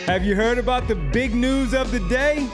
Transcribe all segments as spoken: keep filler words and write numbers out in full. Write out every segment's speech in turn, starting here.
Have you heard about the big news of the day?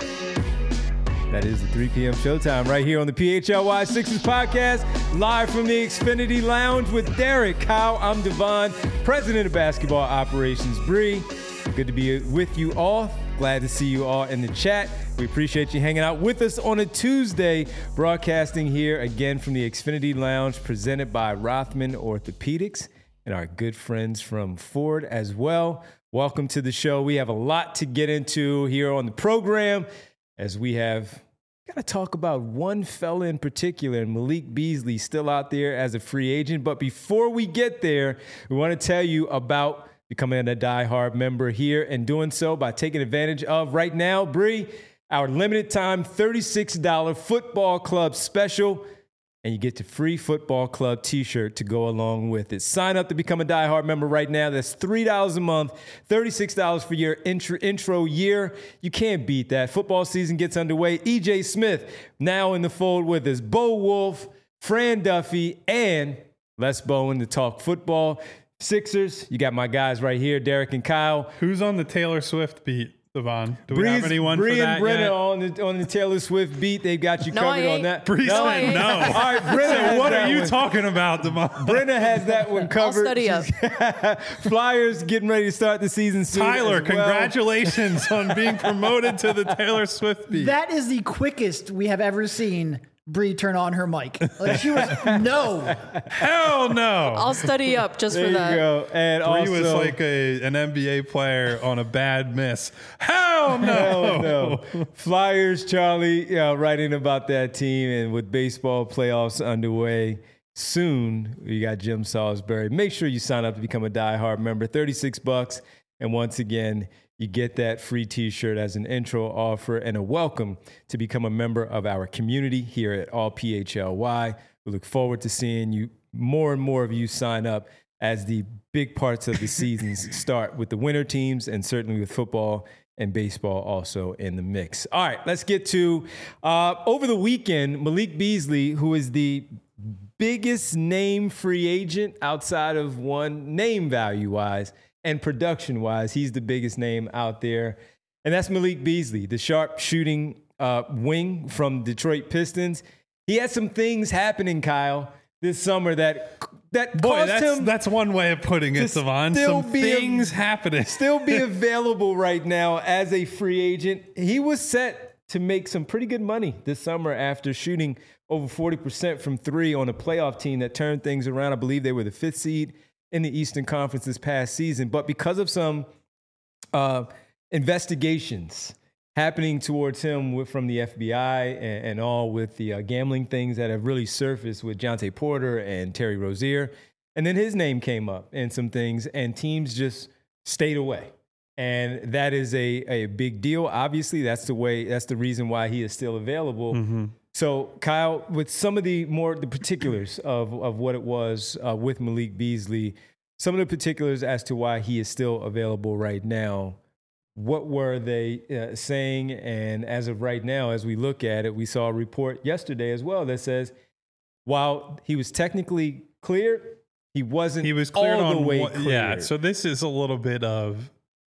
That is the three p.m. showtime right here on the P H L Y Sixers podcast, live from the Xfinity Lounge with Derek, Kyle. I'm Devon, president of basketball operations, Bree. Good to be with you all. Glad to see you all in the chat. We appreciate you hanging out with us on a Tuesday, broadcasting here again from the Xfinity Lounge, presented by Rothman Orthopedics and our good friends from Ford as well. Welcome to the show. We have a lot to get into here on the program, as we have got to talk about one fella in particular, and Malik Beasley still out there as a free agent. But before we get there, we want to tell you about becoming a diehard member here, and doing so by taking advantage of right now, Bree, our limited time thirty-six dollars football club special. And you get the free football club t-shirt to go along with it. Sign up to become a diehard member right now. That's three dollars a month, thirty-six dollars for your intro, intro year. You can't beat that. Football season gets underway. E J Smith now in the fold with us. Bo Wolf, Fran Duffy, and Les Bowen to talk football. Sixers, you got my guys right here, Derek and Kyle. Who's on the Taylor Swift beat, Devon? Do we Breeze, have anyone Bree for that and Brenna yet? on the on the Taylor Swift beat. They've got you No, covered I on ain't. that. Bree no, said no. All right, Brenna has What that are you one. talking about, Devon? Brenna has that one covered. study up. Flyers getting ready to start the season soon. Tyler, as well. congratulations on being promoted to the Taylor Swift beat. That is the quickest we have ever seen Bree turn on her mic. Like she was, no. Hell no. I'll study up just There for you that. go. And Bree also, was like a, an N B A player on a bad miss. Hell no. hell no. Flyers, Charlie, you know, writing about that team, and with baseball playoffs underway soon, we got Jim Salisbury. Make sure you sign up to become a diehard member. thirty-six bucks. And once again, you get that free t-shirt as an intro offer and a welcome to become a member of our community here at All P H L Y. We look forward to seeing you, more and more of you sign up as the big parts of the seasons start with the winter teams, and certainly with football and baseball also in the mix. All right, let's get to uh, over the weekend, Malik Beasley, who is the biggest name free agent outside of one name value-wise, and production-wise, he's the biggest name out there. And that's Malik Beasley, the sharp shooting uh, wing from Detroit Pistons. He had some things happening, Kyle, this summer that that Boy, caused that's, him that's one way of putting it, to Devon. still Some be a- things happening. still be available right now as a free agent. He was set to make some pretty good money this summer after shooting over forty percent from three on a playoff team that turned things around. I believe they were the fifth seed in the Eastern Conference this past season. But because of some uh, investigations happening towards him with, from the F B I and, and all with the uh, gambling things that have really surfaced with Jonte Porter and Terry Rozier, and then his name came up and some things, and teams just stayed away. And that is a, a big deal. Obviously, that's the way, that's the reason why he is still available. Mm-hmm. So, Kyle, with some of the more the particulars of, of what it was uh, with Malik Beasley, some of the particulars as to why he is still available right now, what were they uh, saying? And as of right now, as we look at it, we saw a report yesterday as well that says while he was technically cleared, he wasn't He was cleared all on the way one- cleared. Yeah, so this is a little bit of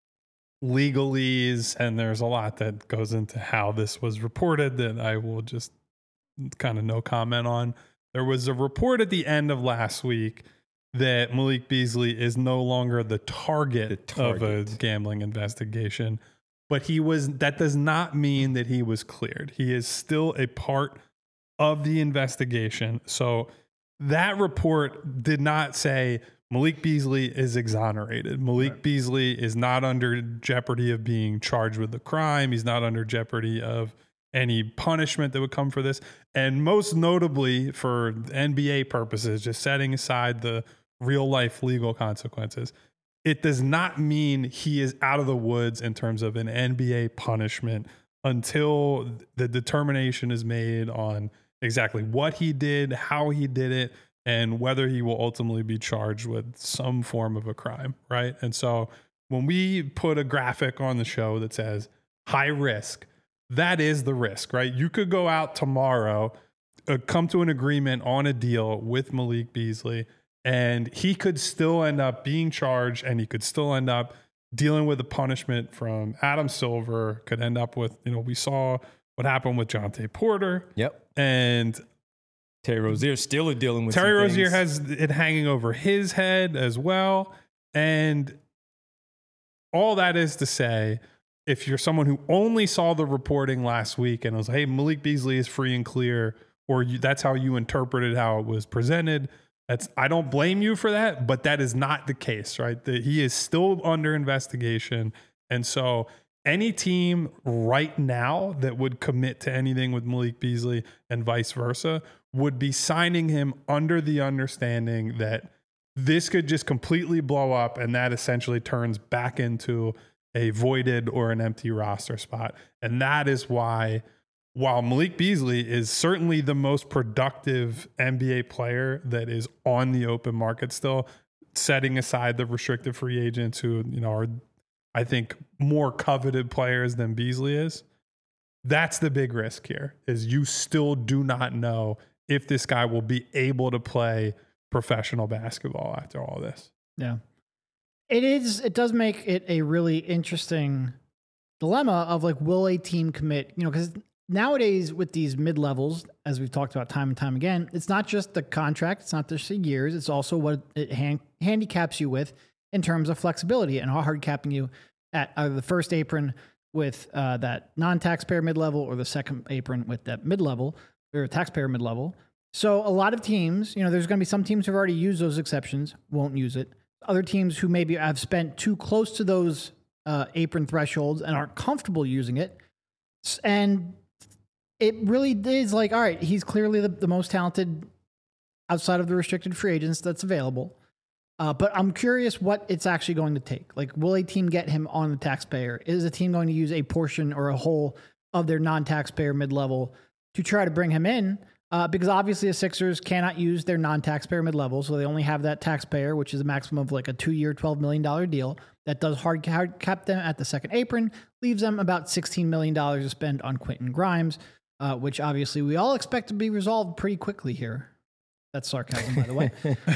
legalese, and there's a lot that goes into how this was reported that I will just kind of no comment on. There was a report at the end of last week that Malik Beasley is no longer the target, The target. of a gambling investigation, but he was. That does not mean that he was cleared. He is still a part of the investigation. So that report did not say Malik Beasley is exonerated. Malik Right. Beasley is not under jeopardy of being charged with a crime. He's not under jeopardy of any punishment that would come for this. And most notably for N B A purposes, just setting aside the real life legal consequences, it does not mean he is out of the woods in terms of an N B A punishment until the determination is made on exactly what he did, how he did it, and whether he will ultimately be charged with some form of a crime, right? And so when we put a graphic on the show that says high risk, that is the risk, right? You could go out tomorrow, uh, come to an agreement on a deal with Malik Beasley, and he could still end up being charged, and he could still end up dealing with the punishment from Adam Silver could end up with, you know, we saw what happened with Jonte Porter. Yep. And Terry Rozier still dealing with Terry some Rozier things. has it hanging over his head as well. And all that is to say, if you're someone who only saw the reporting last week and was, hey, Malik Beasley is free and clear, or you, that's how you interpreted how it was presented, that's I don't blame you for that, but that is not the case, right? That he is still under investigation. And so any team right now that would commit to anything with Malik Beasley and vice versa would be signing him under the understanding that this could just completely blow up, and that essentially turns back into a voided or an empty roster spot. And that is why, while Malik Beasley is certainly the most productive N B A player that is on the open market still, setting aside the restricted free agents who, you know, are, I think, more coveted players than Beasley is, that's the big risk here, is you still do not know if this guy will be able to play professional basketball after all this. Yeah. It is, it does make it a really interesting dilemma of like, will a team commit, you know, because nowadays with these mid levels, as we've talked about time and time again, it's not just the contract, it's not just the years, it's also what it hand, handicaps you with in terms of flexibility and how hard capping you at either the first apron with uh, that non-taxpayer mid level or the second apron with that mid level or taxpayer mid level. So a lot of teams, you know, there's going to be some teams who've already used those exceptions, won't use it. Other teams who maybe have spent too close to those uh, apron thresholds and aren't comfortable using it. And it really is like, all right, he's clearly the, the most talented outside of the restricted free agents that's available. Uh, but I'm curious what it's actually going to take. Like, will a team get him on the taxpayer? Is a team going to use a portion or a whole of their non-taxpayer mid-level to try to bring him in? Uh, because obviously the Sixers cannot use their non-taxpayer mid-level, so they only have that taxpayer, which is a maximum of like a two-year, twelve million dollars deal that does hard, hard cap them at the second apron, leaves them about sixteen million dollars to spend on Quentin Grimes, uh, which obviously we all expect to be resolved pretty quickly here. That's sarcasm, by the way.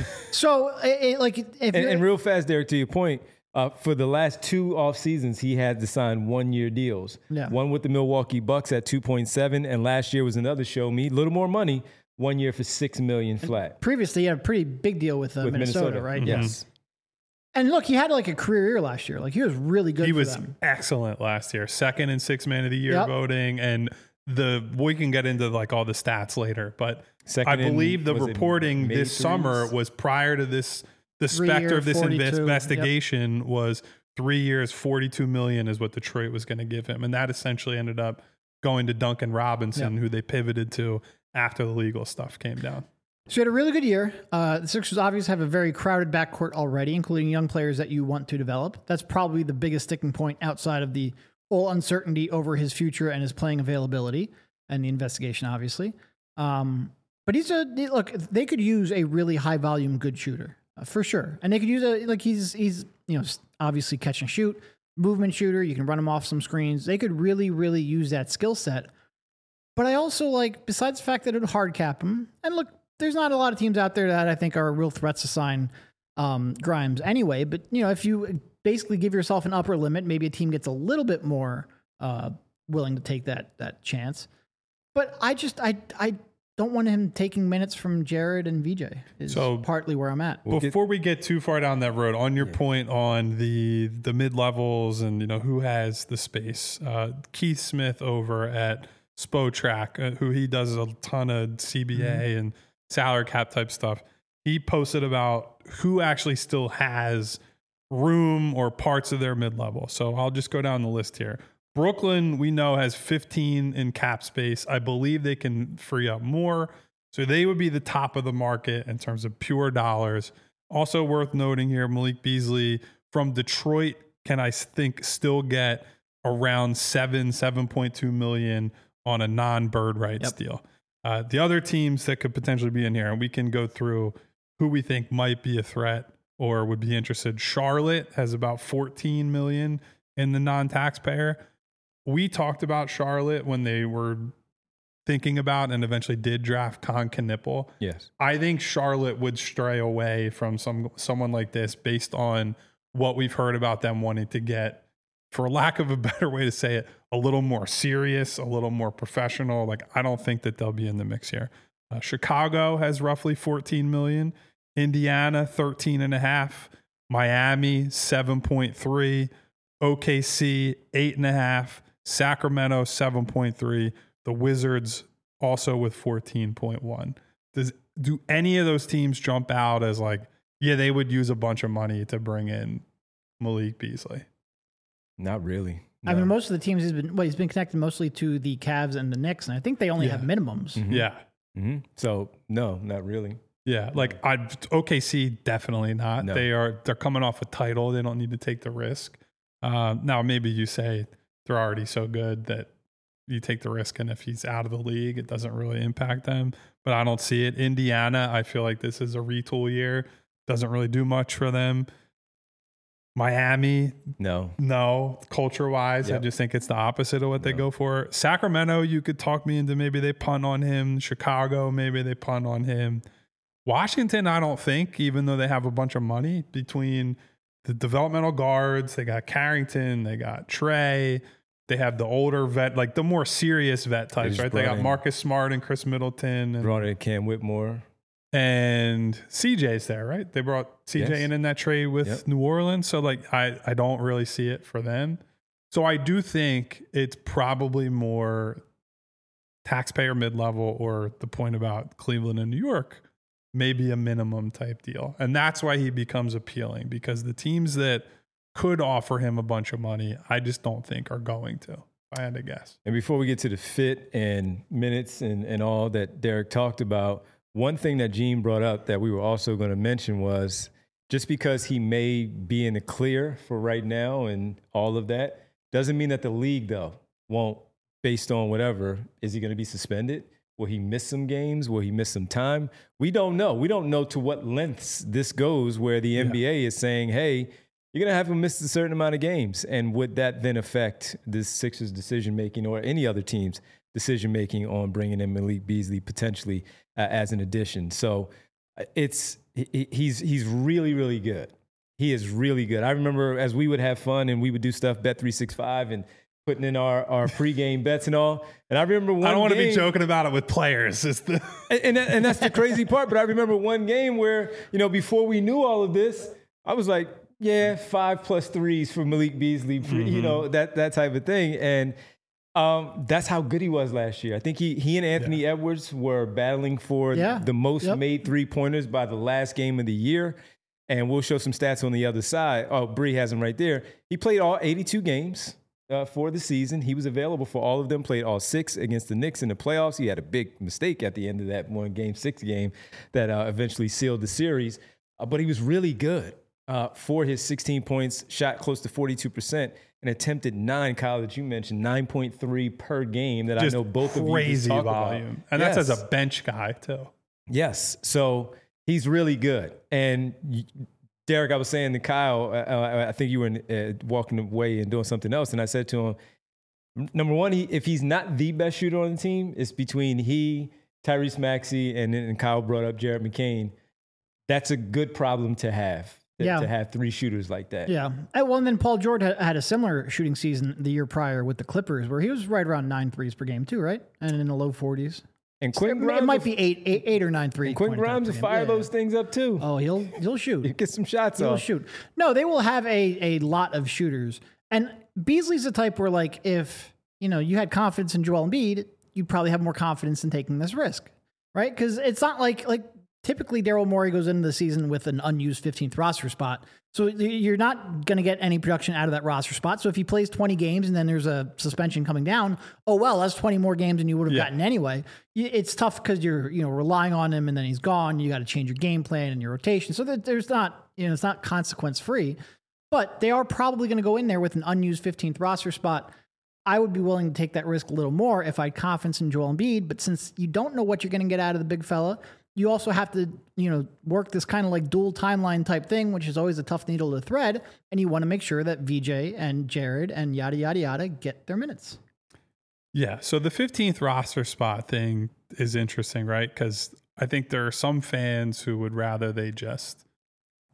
So, it, it, like, if and, you're, and real fast, Derek, to your point, uh, for the last two off seasons, he had to sign one-year deals. Yeah. One with the Milwaukee Bucks at two point seven, and last year was another show me, a little more money, one year for six million dollars flat. Previously, he had a pretty big deal with, uh, with Minnesota, Minnesota, right? Yes. And look, he had like a career year last year. Like, he was really good He for was them. excellent last year, second in six man of the year Yep. voting, and the we can get into like all the stats later, but Second I believe in, the was it reporting May this threes? summer was prior to this. The Three specter year, of this forty-two, invest- yep. investigation was three years, forty-two million is what Detroit was going to give him, and that essentially ended up going to Duncan Robinson, Yep. who they pivoted to after the legal stuff came down. So he had a really good year. Uh, the Sixers obviously have a very crowded backcourt already, including young players that you want to develop. That's probably the biggest sticking point outside of the whole uncertainty over his future and his playing availability and the investigation, obviously. Um, but he's a look. They could use a really high volume, good shooter uh, for sure, and they could use a like he's he's you know obviously catch and shoot, movement shooter. You can run him off some screens. They could really really use that skill set. But I also like, besides the fact that it would hard cap him, and look, there's not a lot of teams out there that I think are real threats to sign um, Grimes anyway. But, you know, if you basically give yourself an upper limit, maybe a team gets a little bit more uh, willing to take that that chance. But I just, I I don't want him taking minutes from Jared and V J is So- partly where I'm at. We'll get- Before we get too far down that road, on your point on the the mid levels and you know who has the space, uh, Keith Smith over at Spotrac, uh, who he does a ton of C B A Mm-hmm. and salary cap type stuff. He posted about who actually still has room or parts of their mid level. So I'll just go down the list here. Brooklyn, we know, has fifteen in cap space. I believe they can free up more. So they would be the top of the market in terms of pure dollars. Also worth noting here, Malik Beasley from Detroit can, I think, still get around seven, seven point two million on a non-bird rights Yep. deal. Uh, the other teams that could potentially be in here, and we can go through who we think might be a threat or would be interested. Charlotte has about fourteen million in the non-taxpayer. We talked about Charlotte when they were thinking about and eventually did draft Con Knipple. Yes. I think Charlotte would stray away from some someone like this based on what we've heard about them wanting to get, for lack of a better way to say it, a little more serious, a little more professional. Like, I don't think that they'll be in the mix here. Uh, Chicago has roughly fourteen million, Indiana thirteen and a half, Miami seven point three, O K C eight and a half, Sacramento seven point three, the Wizards also with fourteen point one. Does do any of those teams jump out as like, yeah, they would use a bunch of money to bring in Malik Beasley? Not really. I No. mean, most of the teams he's been well, he's been connected mostly to the Cavs and the Knicks, and I think they only Yeah. have minimums. Mhm. Yeah. Mhm. So no, not really. Yeah, like I O K C definitely not. No. They are they're coming off a title. They don't need to take the risk. Uh, now maybe you say they're already so good that you take the risk, and if he's out of the league, it doesn't really impact them. But I don't see it. Indiana, I feel like this is a retool year. Doesn't really do much for them. Miami, No. no, culture wise, I Yep. just think it's the opposite of what they No. go for. Sacramento, you could talk me into maybe they punt on him. Chicago, maybe they punt on him. Washington, I don't think, even though they have a bunch of money between the developmental guards, they got Carrington, they got Trey, they have the older vet, like the more serious vet types, just right? They brought got in- Marcus Smart and Chris Middleton and, Brought in Cam Whitmore. and C J's there, right? They brought C J Yes. in in that trade with Yep. New Orleans. So like, I, I don't really see it for them. So I do think it's probably more taxpayer mid-level, or the point about Cleveland and New York, maybe a minimum type deal. And that's why he becomes appealing, because the teams that could offer him a bunch of money, I just don't think are going to, if I had to guess. And before we get to the fit and minutes and, and all that Derek talked about, one thing that Gene brought up that we were also going to mention was, just because he may be in the clear for right now and all of that, doesn't mean that the league, though, won't, based on whatever, is he going to be suspended? Will he miss some games? Will he miss some time? We don't know. We don't know to what lengths this goes, where the N B A is saying, hey, you're going to have him miss a certain amount of games. And would that then affect the Sixers' decision-making, or any other team's decision-making on bringing in Malik Beasley potentially uh, as an addition? So uh, it's he, he's he's really, really good. He is really good. I remember as we would have fun and we would do stuff, Bet three sixty-five, and putting in our, our pregame bets and all. And I remember one I don't want to game- be joking about it with players. It's the and, and, that, and that's the crazy part. But I remember one game where, you know, before we knew all of this, I was like, yeah, five plus threes for Malik Beasley, for, Mm-hmm. you know, that that type of thing. And um, that's how good he was last year. I think he he and Anthony Yeah. Edwards were battling for Yeah. the most Yep. made three-pointers by the last game of the year. And we'll show some stats on the other side. Oh, Bree has him right there. He played all eighty-two games uh, for the season. He was available for all of them, played all six against the Knicks in the playoffs. He had a big mistake at the end of that one game six game that uh, eventually sealed the series. Uh, but he was really good uh, for his sixteen points, shot close to forty-two percent, and attempted nine, Kyle, that you mentioned, nine point three per game that just I know both of you just crazy talked volume. about. And that's Yes. as a bench guy too. Yes. So he's really good. And y- Derek, I was saying to Kyle, uh, I think you were in, uh, walking away and doing something else. And I said to him, number one, he, if he's not the best shooter on the team, it's between he, Tyrese Maxey, and then Kyle brought up Jared McCain. That's a good problem to have, to, Yeah. to have three shooters like that. Yeah. Uh, Well, and then Paul George had, had a similar shooting season the year prior with the Clippers, where he was right around nine threes per game too, right? And in the low forties. And It, Quentin Grimes, it might be eight, eight, eight or nine three. and Quentin Grimes will fire those things up too. Oh, he'll he'll shoot. Get some shots He'll off. shoot. No, they will have a a lot of shooters. And Beasley's the type where, like, if you know you had confidence in Joel Embiid, you'd probably have more confidence in taking this risk, right? Because it's not like like typically Daryl Morey goes into the season with an unused fifteenth roster spot. So you're not going to get any production out of that roster spot. So if he plays twenty games and then there's a suspension coming down, oh, well, that's twenty more games than you would have Yeah. gotten anyway. Y- It's tough because you're, you know, relying on him and then he's gone. You got to change your game plan and your rotation. So that there's not, you know, it's not consequence free, but they are probably going to go in there with an unused fifteenth roster spot. I would be willing to take that risk a little more if I had confidence in Joel Embiid. But since you don't know what you're going to get out of the big fella, you also have to, you know, work this kind of like dual timeline type thing, which is always a tough needle to thread. And you want to make sure that V J and Jared and yada, yada, yada get their minutes. Yeah. So the fifteenth roster spot thing is interesting, right? Because I think there are some fans who would rather they just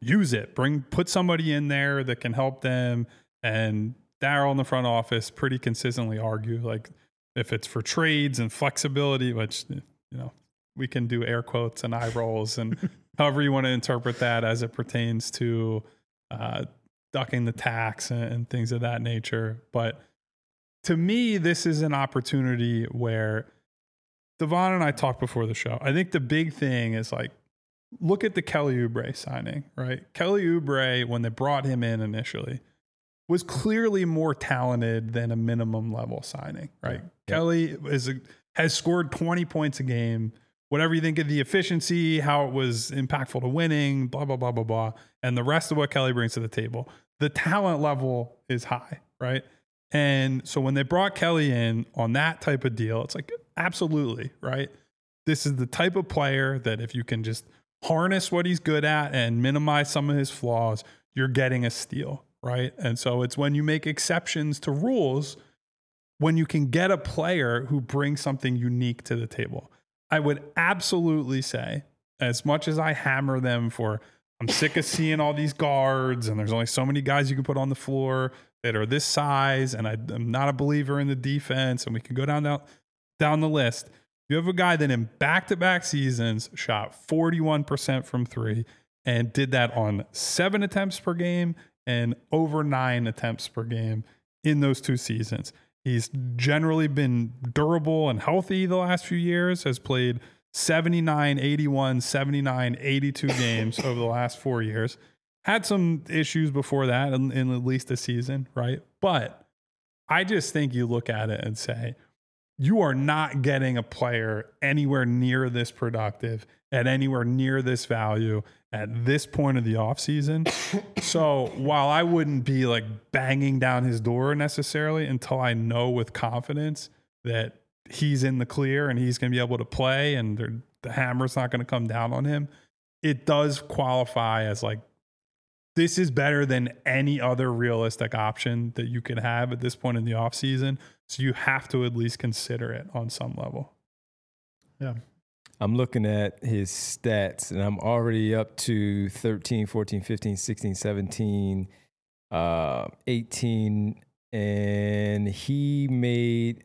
use it. Bring put somebody in there that can help them. And Daryl in the front office pretty consistently argue, like, if it's for trades and flexibility, which, you know, we can do air quotes and eye rolls and however you want to interpret that as it pertains to uh, ducking the tax and, and things of that nature. But to me, this is an opportunity where Devon and I talked before the show. I think the big thing is, like, look at the Kelly Oubre signing, right? Kelly Oubre, when they brought him in initially, was clearly more talented than a minimum level signing, right? Yeah. Kelly is a, has scored twenty points a game. Whatever you think of the efficiency, how it was impactful to winning, blah, blah, blah, blah, blah. And the rest of what Kelly brings to the table, the talent level is high, right? And so when they brought Kelly in on that type of deal, it's like, absolutely, right? This is the type of player that if you can just harness what he's good at and minimize some of his flaws, you're getting a steal, right? And so it's when you make exceptions to rules, when you can get a player who brings something unique to the table. I would absolutely say, as much as I hammer them for, I'm sick of seeing all these guards and there's only so many guys you can put on the floor that are this size, and I, I'm not a believer in the defense, and we can go down, down, down the list. You have a guy that in back-to-back seasons shot forty-one percent from three and did that on seven attempts per game and over nine attempts per game in those two seasons. He's generally been durable and healthy the last few years, has played seventy-nine, eighty-one, seventy-nine, eighty-two games over the last four years. Had some issues before that in, in at least a season, right? But I just think you look at it and say, you are not getting a player anywhere near this productive at anywhere near this value at this point of the offseason. So while I wouldn't be like banging down his door necessarily until I know with confidence that he's in the clear and he's going to be able to play and the hammer's not going to come down on him, it does qualify as like, this is better than any other realistic option that you could have at this point in the offseason. So you have to at least consider it on some level. Yeah. I'm looking at his stats, and I'm already up to thirteen, fourteen, fifteen, sixteen, seventeen, uh, eighteen, and he made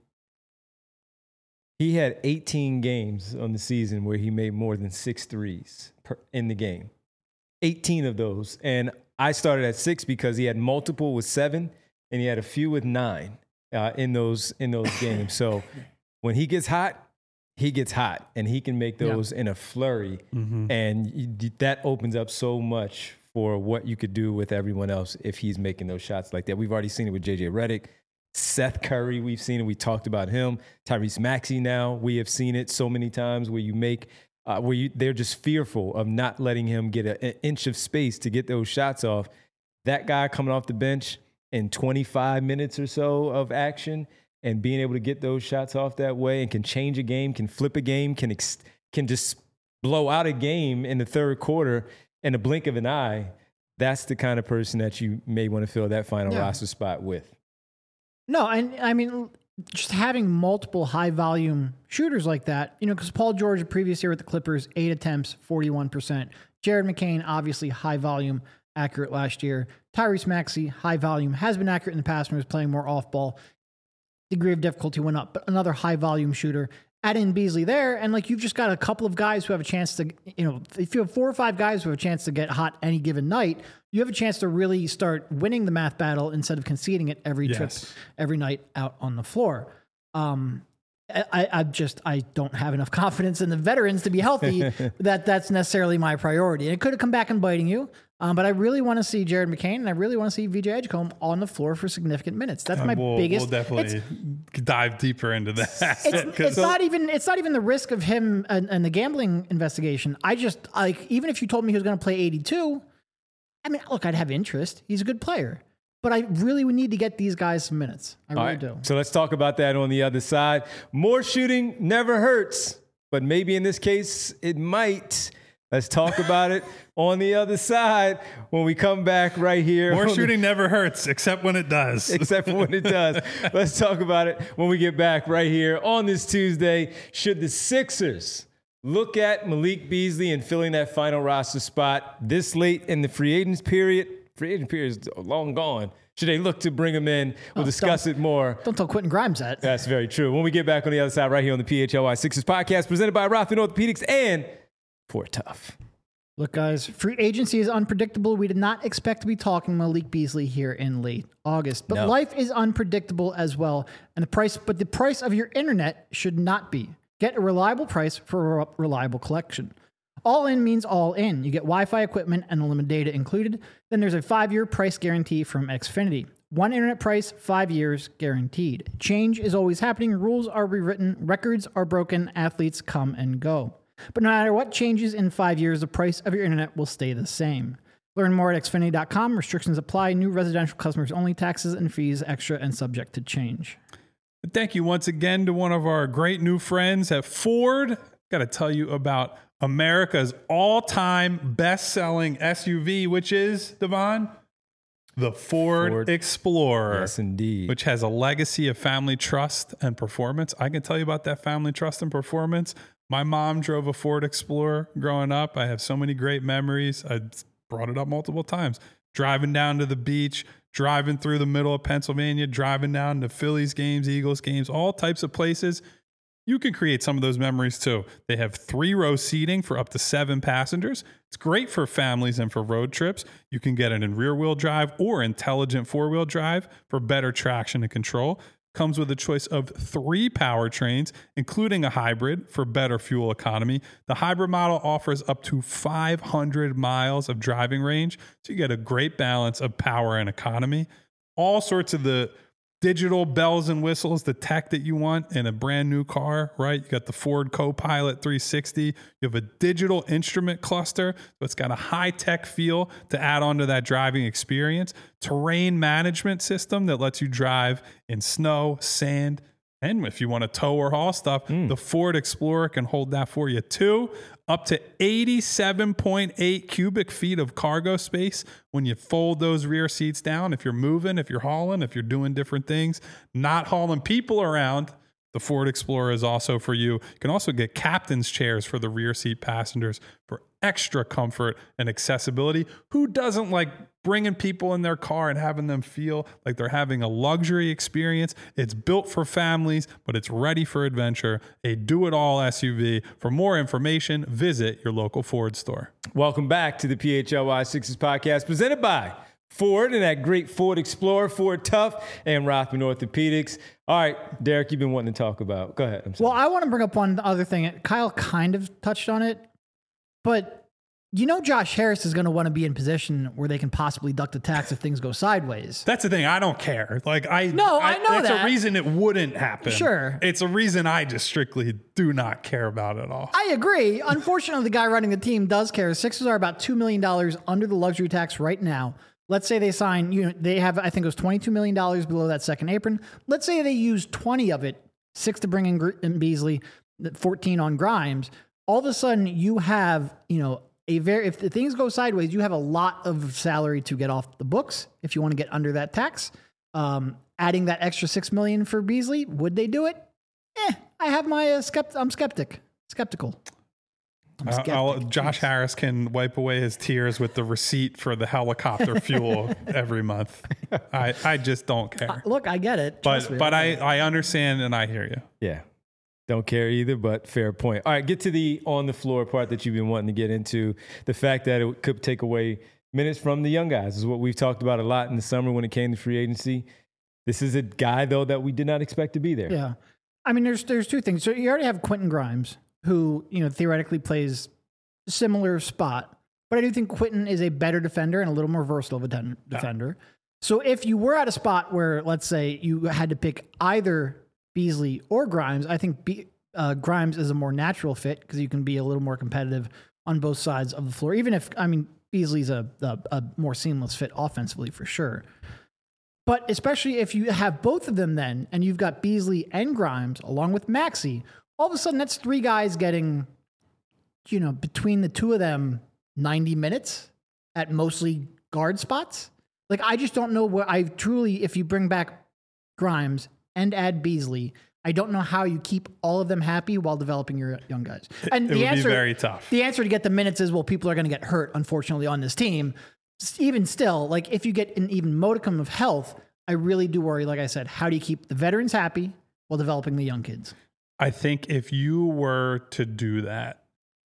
he had eighteen games on the season where he made more than six threes per, in the game. eighteen of those, and I started at six because he had multiple with seven, and he had a few with nine uh, in those in those games. So when he gets hot, he gets hot, and he can make those yeah. in a flurry, mm-hmm. and you, that opens up so much for what you could do with everyone else if he's making those shots like that. We've already seen it with J J Redick, Seth Curry. We've seen it. We talked about him. Tyrese Maxey. Now we have seen it so many times where you make. Uh, where you, they're just fearful of not letting him get a, an inch of space to get those shots off. That guy coming off the bench in twenty-five minutes or so of action and being able to get those shots off that way and can change a game, can flip a game, can ex- can just blow out a game in the third quarter in a blink of an eye, that's the kind of person that you may want to fill that final yeah. roster spot with. No, and I mean... just having multiple high volume shooters like that, you know, because Paul George the previous year with the Clippers, eight attempts, forty-one percent. Jared McCain, obviously high volume, accurate last year. Tyrese Maxey, high volume, has been accurate in the past when he was playing more off ball. Degree of difficulty went up, but another high volume shooter. Add in Beasley there, and like you've just got a couple of guys who have a chance to, you know, if you have four or five guys who have a chance to get hot any given night, you have a chance to really start winning the math battle instead of conceding it every yes. trip, every night out on the floor. Um, I, I just I don't have enough confidence in the veterans to be healthy that that's necessarily my priority. And it could have come back and biting you. Um, but I really want to see Jared McCain and I really want to see V J Edgecombe on the floor for significant minutes. That's my we'll, biggest. We'll definitely dive deeper into that. It's, it's not even it's not even the risk of him and, and the gambling investigation. I just like even if you told me he was going to play eighty-two, I mean, look, I'd have interest. He's a good player. But I really would need to get these guys some minutes. I really right. do. So let's talk about that on the other side. More shooting never hurts, but maybe in this case, it might. Let's talk about it on the other side when we come back right here. More shooting the, never hurts, except when it does. Except when it does. Let's talk about it when we get back right here on this Tuesday. Should the Sixers look at Malik Beasley and filling that final roster spot this late in the free agents period? Free agent period is long gone. Should they look to bring him in? We'll oh, discuss it more. Don't tell Quentin Grimes that. That's very true. When we get back on the other side, right here on the P H L Y Sixers podcast, presented by Rothman Orthopedics and Fort Tough. Look, guys, free agency is unpredictable. We did not expect to be talking Malik Beasley here in late August, but no. Life is unpredictable as well. And the price, but the price of your internet should not be. Get a reliable price for a reliable collection. All in means all in. You get Wi-Fi equipment and unlimited data included. Then there's a five-year price guarantee from Xfinity. One internet price, five years guaranteed. Change is always happening. Rules are rewritten. Records are broken. Athletes come and go. But no matter what changes in five years, the price of your internet will stay the same. Learn more at Xfinity dot com. Restrictions apply. New residential customers only. Taxes and fees extra and subject to change. Thank you once again to one of our great new friends at Ford. Got to tell you about America's all-time best-selling S U V, which is, Devon, the Ford, Ford Explorer. Yes, indeed. Which has a legacy of family trust and performance. I can tell you about that family trust and performance. My mom drove a Ford Explorer growing up. I have so many great memories. I brought it up multiple times. Driving down to the beach, driving through the middle of Pennsylvania, driving down to Phillies games, Eagles games, all types of places. You can create some of those memories too. They have three row seating for up to seven passengers. It's great for families and for road trips. You can get it in rear wheel drive or intelligent four wheel drive for better traction and control. Comes with a choice of three powertrains, including a hybrid for better fuel economy. The hybrid model offers up to five hundred miles of driving range, so you get a great balance of power and economy. All sorts of the digital bells and whistles, the tech that you want in a brand new car, right? You got the Ford Copilot three sixty. You have a digital instrument cluster, so it's got a high-tech feel to add on to that driving experience. Terrain management system that lets you drive in snow, sand, and if you want to tow or haul stuff, mm. the Ford Explorer can hold that for you too. Up to eighty-seven point eight cubic feet of cargo space when you fold those rear seats down. If you're moving, if you're hauling, if you're doing different things, not hauling people around, the Ford Explorer is also for you. You can also get captain's chairs for the rear seat passengers for extra comfort and accessibility. Who doesn't like bringing people in their car and having them feel like they're having a luxury experience? It's built for families, but it's ready for adventure. A do-it-all S U V. For more information, visit your local Ford store. Welcome back to the P H L Y Sixers podcast presented by Ford and that great Ford Explorer, Ford Tough, and Rothman Orthopedics. All right, Derek, you've been wanting to talk about. Go ahead. I'm sorry. Well, I want to bring up one other thing. Kyle kind of touched on it, but you know Josh Harris is going to want to be in position where they can possibly duck the tax if things go sideways. That's the thing. I don't care. Like I No, I, I know that's that. a reason it wouldn't happen. Sure. It's a reason I just strictly do not care about it at all. I agree. Unfortunately, the guy running the team does care. Sixers are about two million dollars under the luxury tax right now. Let's say they sign, you know, they have, I think it was twenty-two million dollars below that second apron. Let's say they use twenty of it, six to bring in, Gr- in Beasley, fourteen on Grimes. All of a sudden you have, you know, a very, if the things go sideways, you have a lot of salary to get off the books. If you want to get under that tax, um, adding that extra six million for Beasley, would they do it? Eh, I have my, uh, skept- I'm skeptic, skeptical. Uh, I'll, Josh Harris can wipe away his tears with the receipt for the helicopter fuel every month. I, I just don't care. Uh, look, I get it. But me, but I, I understand and I hear you. Yeah. Don't care either, but fair point. All right, get to the on-the-floor part that you've been wanting to get into. The fact that it could take away minutes from the young guys is what we've talked about a lot in the summer when it came to free agency. This is a guy, though, that we did not expect to be there. Yeah. I mean, there's there's two things. So you already have Quentin Grimes, who, you know, theoretically plays a similar spot. But I do think Quentin is a better defender and a little more versatile of a den- defender. Yeah. So if you were at a spot where, let's say, you had to pick either Beasley or Grimes, I think Be- uh, Grimes is a more natural fit because you can be a little more competitive on both sides of the floor. Even if, I mean, Beasley's a, a, a more seamless fit offensively for sure. But especially if you have both of them then, and you've got Beasley and Grimes along with Maxey, all of a sudden that's three guys getting, you know, between the two of them, ninety minutes at mostly guard spots. Like, I just don't know where I truly, if you bring back Grimes and add Beasley, I don't know how you keep all of them happy while developing your young guys. And it the would answer, be very tough. The answer to get the minutes is, well, people are going to get hurt, unfortunately, on this team. Even still, like if you get an even modicum of health, I really do worry, like I said, how do you keep the veterans happy while developing the young kids? I think if you were to do that,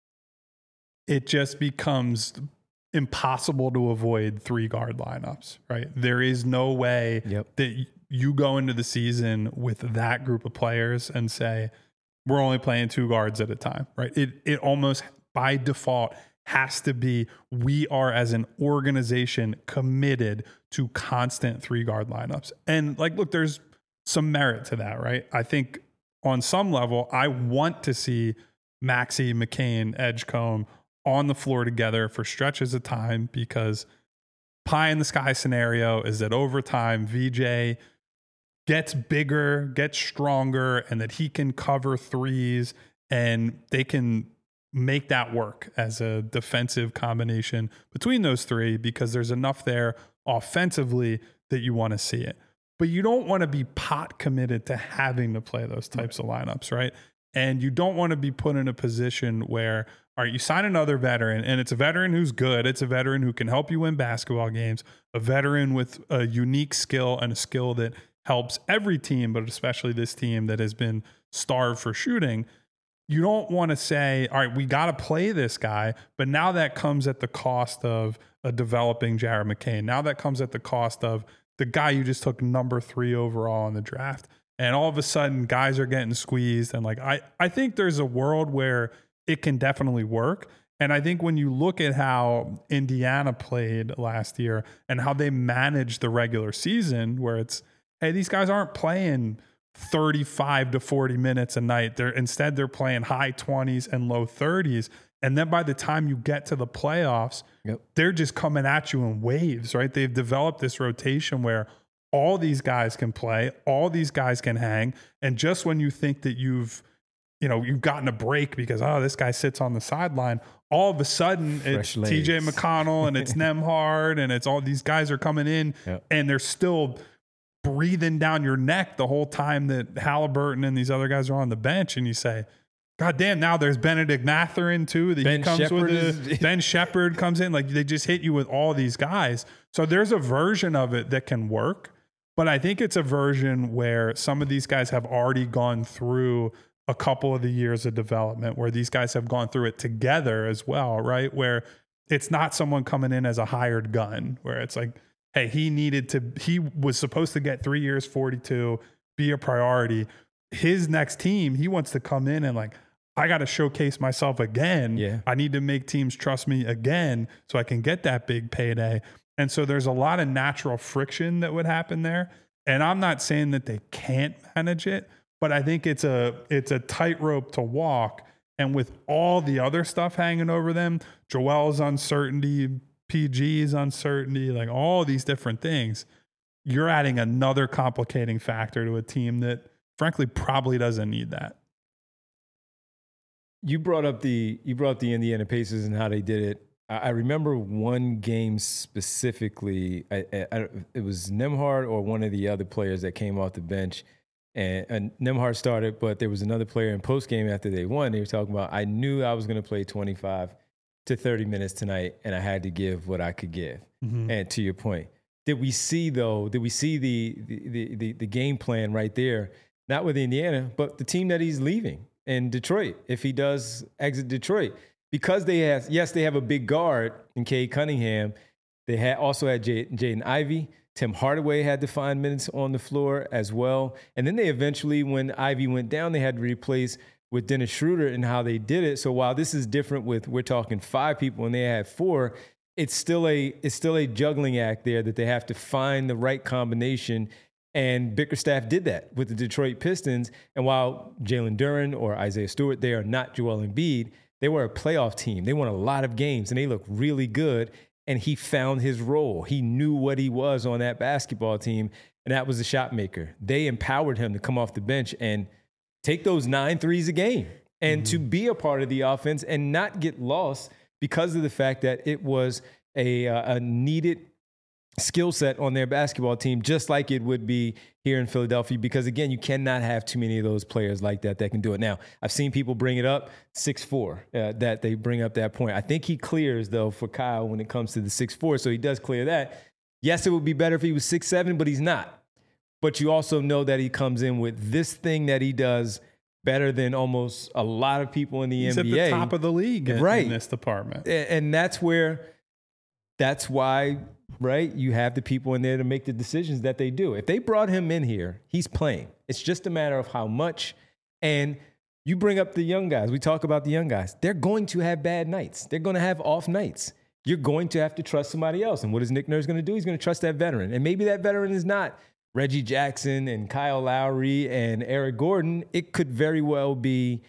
it just becomes impossible to avoid three guard lineups, right? There is no way Yep. that you go into the season with that group of players and say, we're only playing two guards at a time, right? It it almost by default has to be, we are as an organization committed to constant three guard lineups. And like, look, there's some merit to that, right? I think on some level, I want to see Maxey, McCain, Edgecombe on the floor together for stretches of time, because pie in the sky scenario is that over time, V J gets bigger, gets stronger, and that he can cover threes and they can make that work as a defensive combination between those three, because there's enough there offensively that you want to see it. But you don't want to be pot committed to having to play those types of lineups, right? And you don't want to be put in a position where, all right, you sign another veteran, and it's a veteran who's good. It's a veteran who can help you win basketball games, a veteran with a unique skill and a skill that helps every team, but especially this team that has been starved for shooting. You don't want to say, all right, we got to play this guy, but now that comes at the cost of a developing Jared McCain. Now that comes at the cost of the guy you just took number three overall in the draft. And all of a sudden, guys are getting squeezed. And like, I, I think there's a world where it can definitely work. And I think when you look at how Indiana played last year and how they managed the regular season, where it's, hey, these guys aren't playing thirty-five to forty minutes a night. They're instead they're playing high twenties and low thirties. And then by the time you get to the playoffs, yep. they're just coming at you in waves, right? They've developed this rotation where all these guys can play, all these guys can hang. And just when you think that you've, you know, you've gotten a break because, oh, this guy sits on the sideline, all of a sudden Fresh it's legs. T J McConnell and it's Nembhard and it's all these guys are coming in yep. and they're still breathing down your neck the whole time that Halliburton and these other guys are on the bench. And you say, God damn, now there's Benedict Mathurin too. That Ben he comes Shepherd with a, is, Ben Shepherd comes in. Like they just hit you with all these guys. So there's a version of it that can work. But I think it's a version where some of these guys have already gone through a couple of the years of development, where these guys have gone through it together as well, right? Where it's not someone coming in as a hired gun, where it's like, hey, he needed to, he was supposed to get three years, forty-two, be a priority. His next team, he wants to come in and like, I got to showcase myself again. Yeah. I need to make teams trust me again so I can get that big payday. And so there's a lot of natural friction that would happen there. And I'm not saying that they can't manage it, but I think it's a it's a tightrope to walk. And with all the other stuff hanging over them, Joel's uncertainty, P G's uncertainty, like all these different things, you're adding another complicating factor to a team that frankly probably doesn't need that. You brought up the you brought up the Indiana Pacers and how they did it. I, I remember one game specifically. I, I, it was Nembhard or one of the other players that came off the bench, and, and Nembhard started, but there was another player in post game after they won. They were talking about, I knew I was going to play twenty-five to thirty minutes tonight, and I had to give what I could give. Mm-hmm. And to your point, did we see though? Did we see the the the, the game plan right there? Not with Indiana, but the team that he's leaving. In Detroit, if he does exit Detroit, because they have, yes, they have a big guard in Cade Cunningham. They had also had J- Jaden Ivey. Tim Hardaway had to find minutes on the floor as well. And then they eventually, when Ivey went down, they had to replace with Dennis Schroeder and how they did it. So while this is different with, we're talking five people and they had four, it's still a it's still a juggling act there that they have to find the right combination. And Bickerstaff did that with the Detroit Pistons. And while Jalen Duren or Isaiah Stewart, they are not Joel Embiid, they were a playoff team. They won a lot of games, and they looked really good. And he found his role. He knew what he was on that basketball team, and that was the shot maker. They empowered him to come off the bench and take those nine threes a game and mm-hmm. to be a part of the offense and not get lost because of the fact that it was a, uh, a needed skill set on their basketball team, just like it would be here in Philadelphia, because again, you cannot have too many of those players like that that can do it. Now, I've seen people bring it up, six four, uh, that they bring up that point. I think he clears, though, for Kyle when it comes to the six four, so he does clear that. Yes, it would be better if he was six seven, but he's not. But you also know that he comes in with this thing that he does better than almost a lot of people in the he's N B A. He's at the top of the league in, right. in this department. And that's where, that's why, right, you have the people in there to make the decisions that they do. If they brought him in here, he's playing. It's just a matter of how much. And you bring up the young guys. We talk about the young guys. They're going to have bad nights. They're going to have off nights. You're going to have to trust somebody else. And what is Nick Nurse going to do? He's going to trust that veteran. And maybe that veteran is not Reggie Jackson and Kyle Lowry and Eric Gordon. It could very well be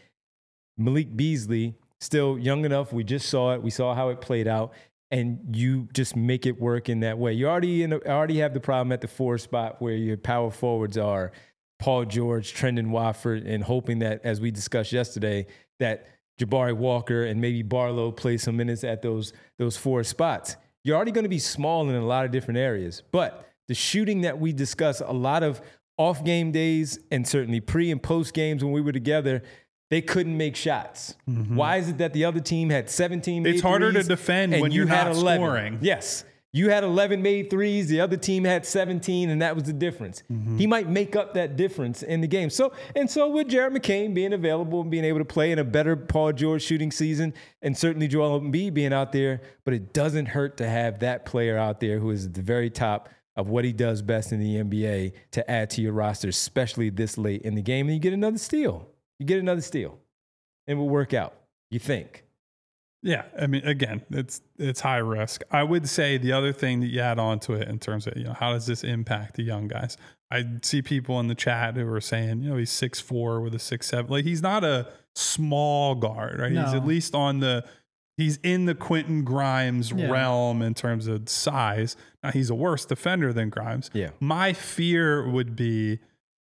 Malik Beasley, still young enough. We just saw it. We saw how it played out. And you just make it work in that way. You already in a, already have the problem at the four spot where your power forwards are Paul George, Trendon Watford, and hoping that, as we discussed yesterday, that Jabari Walker and maybe Barlow play some minutes at those, those four spots. You're already going to be small in a lot of different areas. But the shooting that we discuss, a lot of off game days and certainly pre and post games when we were together, they couldn't make shots. Mm-hmm. Why is it that the other team had seventeen made It's harder threes to defend when you you're had not eleven? Scoring. Yes. You had eleven made threes. The other team had seventeen, and that was the difference. Mm-hmm. He might make up that difference in the game. So, and so with Jared McCain being available and being able to play in a better Paul George shooting season, and certainly Joel Embiid being out there, but it doesn't hurt to have that player out there who is at the very top of what he does best in the N B A to add to your roster, especially this late in the game. And you get another steal. You get another steal. And it will work out, you think. Yeah, I mean, again, it's it's high risk. I would say the other thing that you add on to it in terms of, you know, how does this impact the young guys? I see people in the chat who are saying, you know, he's six four with a six seven. Like, he's not a small guard, right? No. He's at least on the, he's in the Quentin Grimes yeah. realm in terms of size. Now, he's a worse defender than Grimes. Yeah. My fear would be,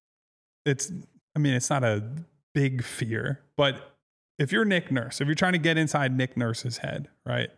it's, I mean, it's not a big fear, but if you're Nick Nurse, if you're trying to get inside Nick Nurse's head, right?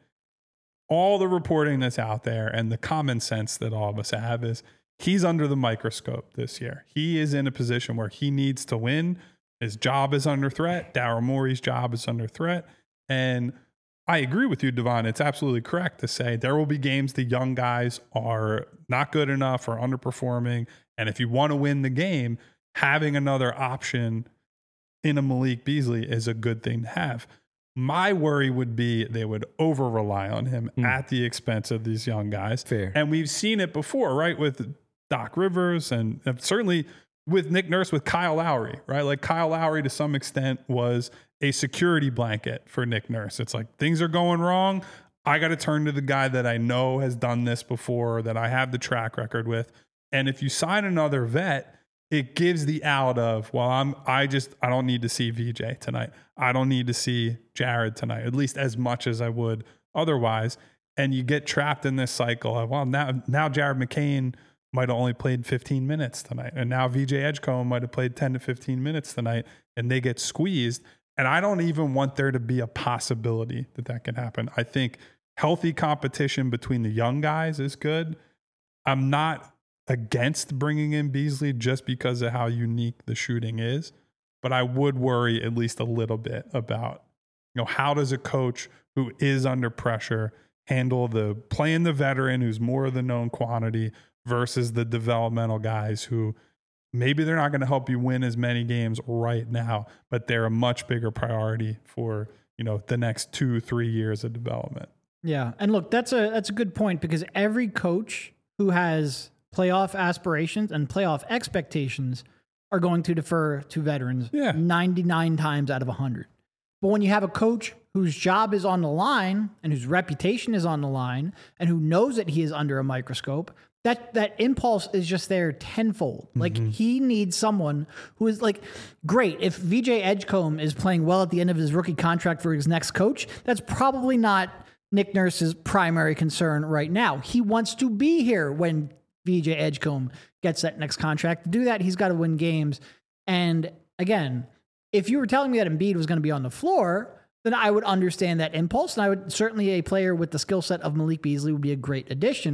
All the reporting that's out there and the common sense that all of us have is he's under the microscope this year. He is in a position where he needs to win. His job is under threat. Daryl Morey's job is under threat. And I agree with you, Devon. It's absolutely correct to say there will be games the young guys are not good enough or underperforming. And if you want to win the game, having another option in a Malik Beasley is a good thing to have. My worry would be they would over rely on him mm. at the expense of these young guys. Fair. And we've seen it before, right? With Doc Rivers and certainly with Nick Nurse, with Kyle Lowry, right? Like Kyle Lowry to some extent was a security blanket for Nick Nurse. It's like things are going wrong. I got to turn to the guy that I know has done this before, that I have the track record with. And if you sign another vet, it gives the out of, well, I'm, I just, I don't need to see V J tonight. I don't need to see Jared tonight, at least as much as I would otherwise. And you get trapped in this cycle of, well, now, now Jared McCain might have only played fifteen minutes tonight. And now V J Edgecombe might have played ten to fifteen minutes tonight, and they get squeezed. And I don't even want there to be a possibility that that can happen. I think healthy competition between the young guys is good. I'm not against bringing in Beasley just because of how unique the shooting is, but I would worry at least a little bit about, you know, how does a coach who is under pressure handle the playing the veteran who's more of the known quantity versus the developmental guys who maybe they're not going to help you win as many games right now, but they're a much bigger priority for, you know, the next two, three years of development. Yeah. And look, that's a, that's a good point, because every coach who has playoff aspirations and playoff expectations are going to defer to veterans yeah. ninety-nine times out of one hundred. But when you have a coach whose job is on the line and whose reputation is on the line and who knows that he is under a microscope, that that impulse is just there tenfold. Mm-hmm. Like, he needs someone who is like, great, if V J Edgecombe is playing well at the end of his rookie contract for his next coach, that's probably not Nick Nurse's primary concern right now. He wants to be here when V J Edgecombe gets that next contract. To do that, he's got to win games. And again, if you were telling me that Embiid was going to be on the floor, then I would understand that impulse. And I would certainly, a player with the skill set of Malik Beasley would be a great addition.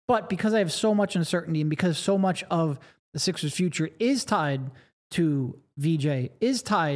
But because I have so much uncertainty and because so much of the Sixers' future is tied to V J, is tied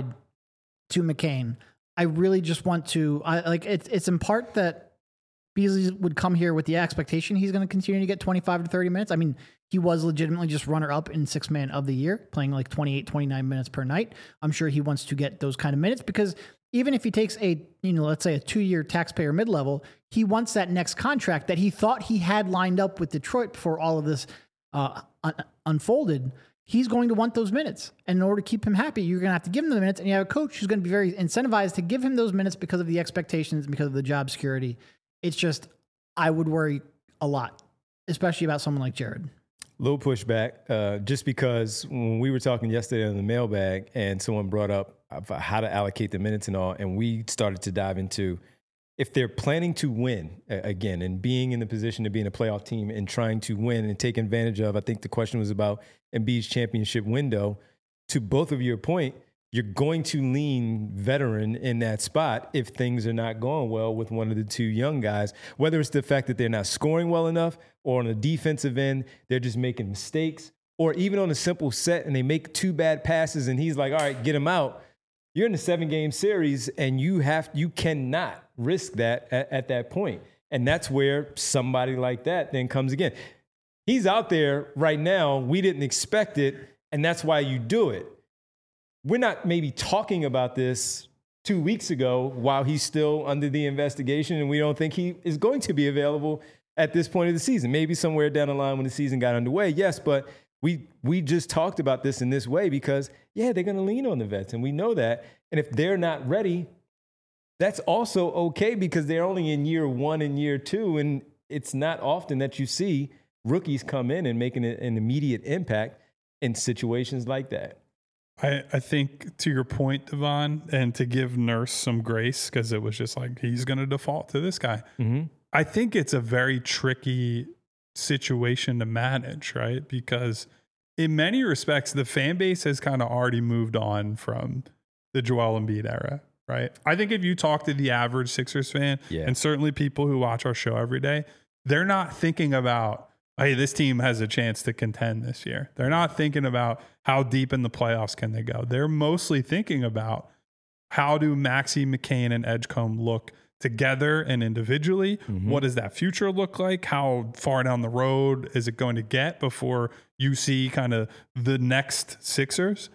to McCain, I really just want to, I like it's, it's in part that Beasley would come here with the expectation he's going to continue to get twenty-five to thirty minutes. I mean, he was legitimately just runner up in six man of the year, playing like twenty-eight, twenty-nine minutes per night. I'm sure he wants to get those kind of minutes because even if he takes a, you know, let's say a two year taxpayer mid level, he wants that next contract that he thought he had lined up with Detroit before all of this uh, un- unfolded. He's going to want those minutes. And in order to keep him happy, you're going to have to give him the minutes. And you have a coach who's going to be very incentivized to give him those minutes because of the expectations, because of the job security. It's just, I would worry a lot, especially about someone like Jared. Little pushback, uh, just because when we were talking yesterday on the mailbag and someone brought up how to allocate the minutes and all, and we started to dive into if they're planning to win again and being in the position to be in a playoff team and trying to win and take advantage of, I think the question was about Embiid's championship window. To both of your point, you're going to lean veteran in that spot if things are not going well with one of the two young guys, whether it's the fact that they're not scoring well enough or on the defensive end, they're just making mistakes, or even on a simple set and they make two bad passes and he's like, all right, get him out. You're in a seven game series and you have, you cannot risk that at, at that point. And that's where somebody like that then comes again. He's out there right now. We didn't expect it. And that's why you do it. We're not maybe talking about this two weeks ago while he's still under the investigation and we don't think he is going to be available at this point of the season. Maybe somewhere down the line when the season got underway, yes, but we we just talked about this in this way because, yeah, they're going to lean on the vets, and we know that. And if they're not ready, that's also okay because they're only in year one and year two, and it's not often that you see rookies come in and making an immediate impact in situations like that. I, I think to your point, Devon, and to give Nurse some grace because it was just like he's going to default to this guy. Mm-hmm. I think it's a very tricky situation to manage, right? Because in many respects, the fan base has kind of already moved on from the Joel Embiid era, right? I think if you talk to the average Sixers fan, yeah. and certainly people who watch our show every day, they're not thinking about, hey, this team has a chance to contend this year. They're not thinking about how deep in the playoffs can they go. They're mostly thinking about how do Maxey, McCain, and Edgecombe look together and individually. Mm-hmm. What does that future look like? How far down the road is it going to get before you see kind of the next Sixers?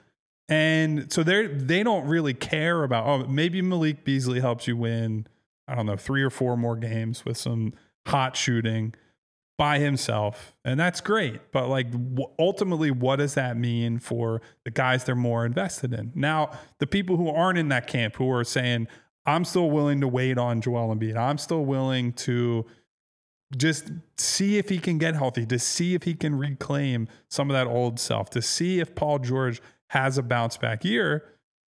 And so they they don't really care about, oh, maybe Malik Beasley helps you win, I don't know, three or four more games with some hot shooting by himself. And that's great. But like w- ultimately, what does that mean for the guys they're more invested in? Now, the people who aren't in that camp who are saying, I'm still willing to wait on Joel Embiid. I'm still willing to just see if he can get healthy, to see if he can reclaim some of that old self, to see if Paul George has a bounce back year.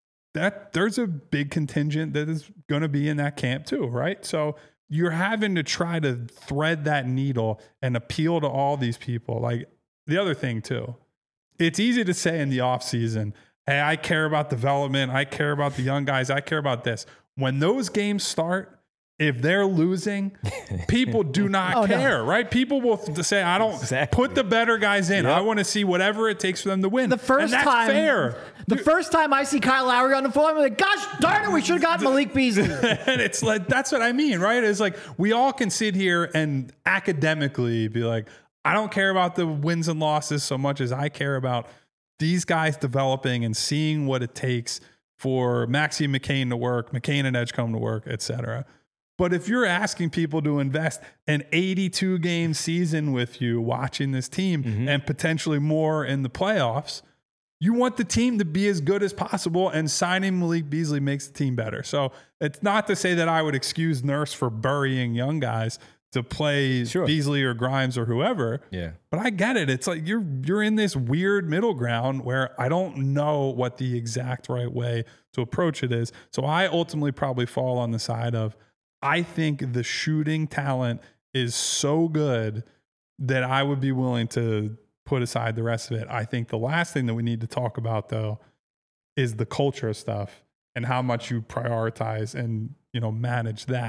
That there's a big contingent that is going to be in that camp too, right? So you're having to try to thread that needle and appeal to all these people. Like the other thing too, it's easy to say in the off season, hey, I care about development. I care about the young guys. I care about this. When those games start, if they're losing, people do not oh, care, no. right? People will th- say, I don't exactly. put the better guys in. Yep. I want to see whatever it takes for them to win. The first and that's time, fair. The Dude. first time I see Kyle Lowry on the floor, I'm like, gosh darn it, we should have got Malik Beasley. And it's like, that's what I mean, right? It's like, we all can sit here and academically be like, I don't care about the wins and losses so much as I care about these guys developing and seeing what it takes for Maxey and McCain to work, McCain and Edgecombe to work, et cetera. But if you're asking people to invest an eighty-two game season with you watching this team mm-hmm. and potentially more in the playoffs, you want the team to be as good as possible, and signing Malik Beasley makes the team better. So it's not to say that I would excuse Nurse for burying young guys to play sure. Beasley or Grimes or whoever. Yeah. But I get it. It's like you're you're in this weird middle ground where I don't know what the exact right way to approach it is. So I ultimately probably fall on the side of, I think the shooting talent is so good that I would be willing to put aside the rest of it. I think the last thing that we need to talk about, though, is the culture stuff and how much you prioritize and, you know, manage that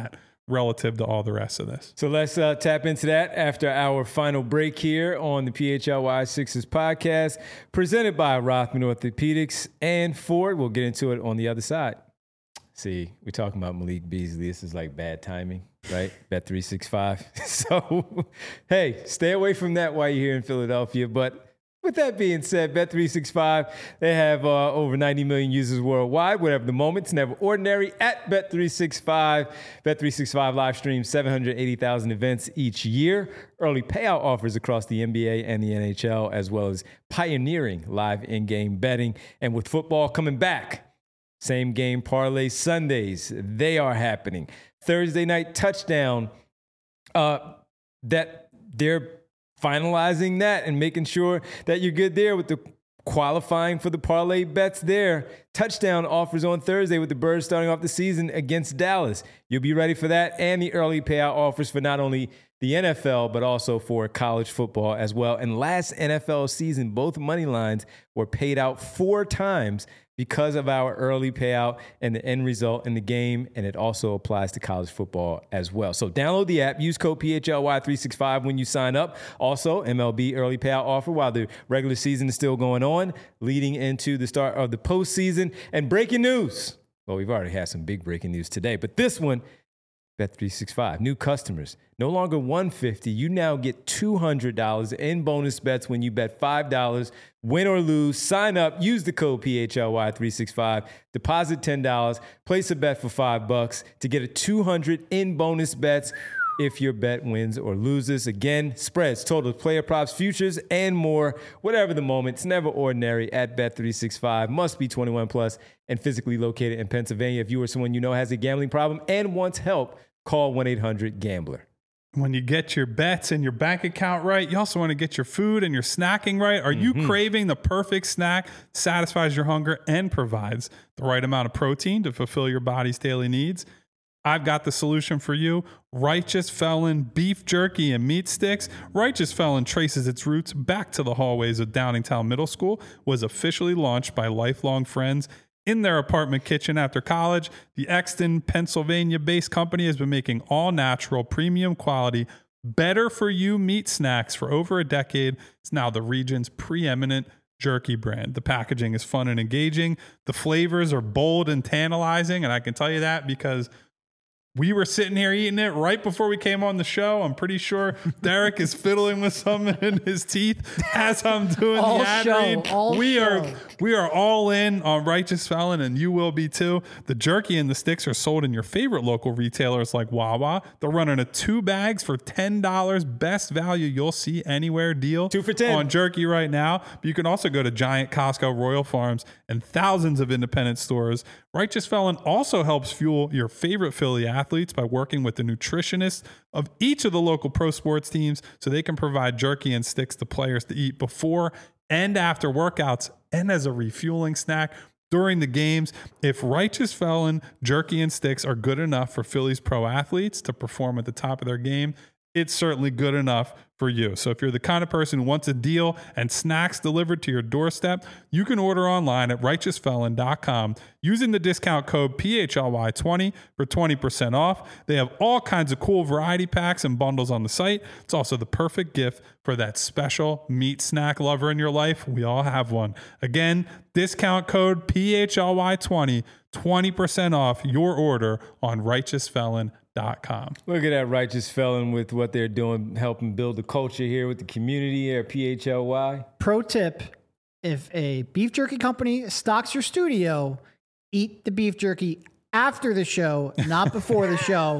relative to all the rest of this. So let's uh, tap into that after our final break here on the P H L Y Sixers podcast, presented by Rothman Orthopedics and Ford. We'll get into it on the other side. See, we're talking about Malik Beasley. This is like bad timing, right? Bet three sixty-five. So, hey, stay away from that while you're here in Philadelphia. But with that being said, Bet three sixty-five, they have uh, over ninety million users worldwide. Whatever the moment, it's never ordinary at Bet three sixty-five. Bet three sixty-five live streams seven hundred eighty thousand events each year. Early payout offers across the N B A and the N H L, as well as pioneering live in-game betting. And with football coming back, same game parlay Sundays, they are happening. Thursday night touchdown, uh, that they're finalizing that and making sure that you're good there with the qualifying for the parlay bets there. Touchdown offers on Thursday with the Birds starting off the season against Dallas. You'll be ready for that, and the early payout offers for not only the N F L, but also for college football as well. And last N F L season, both money lines were paid out four times because of our early payout and the end result in the game, and it also applies to college football as well. So download the app, use code P H L Y three sixty-five when you sign up. Also, M L B early payout offer while the regular season is still going on, leading into the start of the postseason. And breaking news. Well, we've already had some big breaking news today, but this one, Bet three sixty-five, new customers, no longer one hundred fifty dollars. You now get two hundred dollars in bonus bets when you bet five dollars, win or lose. Sign up, use the code P H L Y three sixty-five, deposit ten dollars, place a bet for five bucks to get a two hundred dollars in bonus bets if your bet wins or loses. Again, spreads, totals, player props, futures, and more. Whatever the moment, it's never ordinary at Bet three sixty-five. Must be twenty-one plus and physically located in Pennsylvania. If you or someone you know has a gambling problem and wants help, call one eight hundred gambler. When you get your bets and your bank account right, you also want to get your food and your snacking right. Are you mm-hmm. craving the perfect snack, satisfies your hunger, and provides the right amount of protein to fulfill your body's daily needs? I've got the solution for you. Righteous Felon Beef Jerky and Meat Sticks. Righteous Felon traces its roots back to the hallways of Downingtown Middle School, was officially launched by lifelong friends in their apartment kitchen after college. The Exton, Pennsylvania-based company has been making all-natural, premium quality, better-for-you meat snacks for over a decade. It's now the region's preeminent jerky brand. The packaging is fun and engaging. The flavors are bold and tantalizing, and I can tell you that because we were sitting here eating it right before we came on the show. I'm pretty sure Derek is fiddling with something in his teeth as I'm doing all the ad show, read. all we show. are we are all in on Righteous Felon, and you will be too. The jerky and the sticks are sold in your favorite local retailers like Wawa. They're running a two bags for ten dollars. Best value you'll see anywhere deal. Two for ten. On jerky right now. But you can also go to Giant, Costco, Royal Farms, and thousands of independent stores. Righteous Felon also helps fuel your favorite Philly athletes by working with the nutritionists of each of the local pro sports teams so they can provide jerky and sticks to players to eat before and after workouts and as a refueling snack during the games. If Righteous Felon jerky and sticks are good enough for Philly's pro athletes to perform at the top of their game, it's certainly good enough for you. So if you're the kind of person who wants a deal and snacks delivered to your doorstep, you can order online at righteous felon dot com using the discount code P H L Y twenty for twenty percent off. They have all kinds of cool variety packs and bundles on the site. It's also the perfect gift for that special meat snack lover in your life. We all have one. Again, discount code P H L Y twenty, twenty percent off your order on righteous felon dot com. Look at that Righteous Felon with what they're doing, helping build the culture here with the community here at P H L Y. Pro tip, if a beef jerky company stocks your studio, eat the beef jerky after the show, not before the show.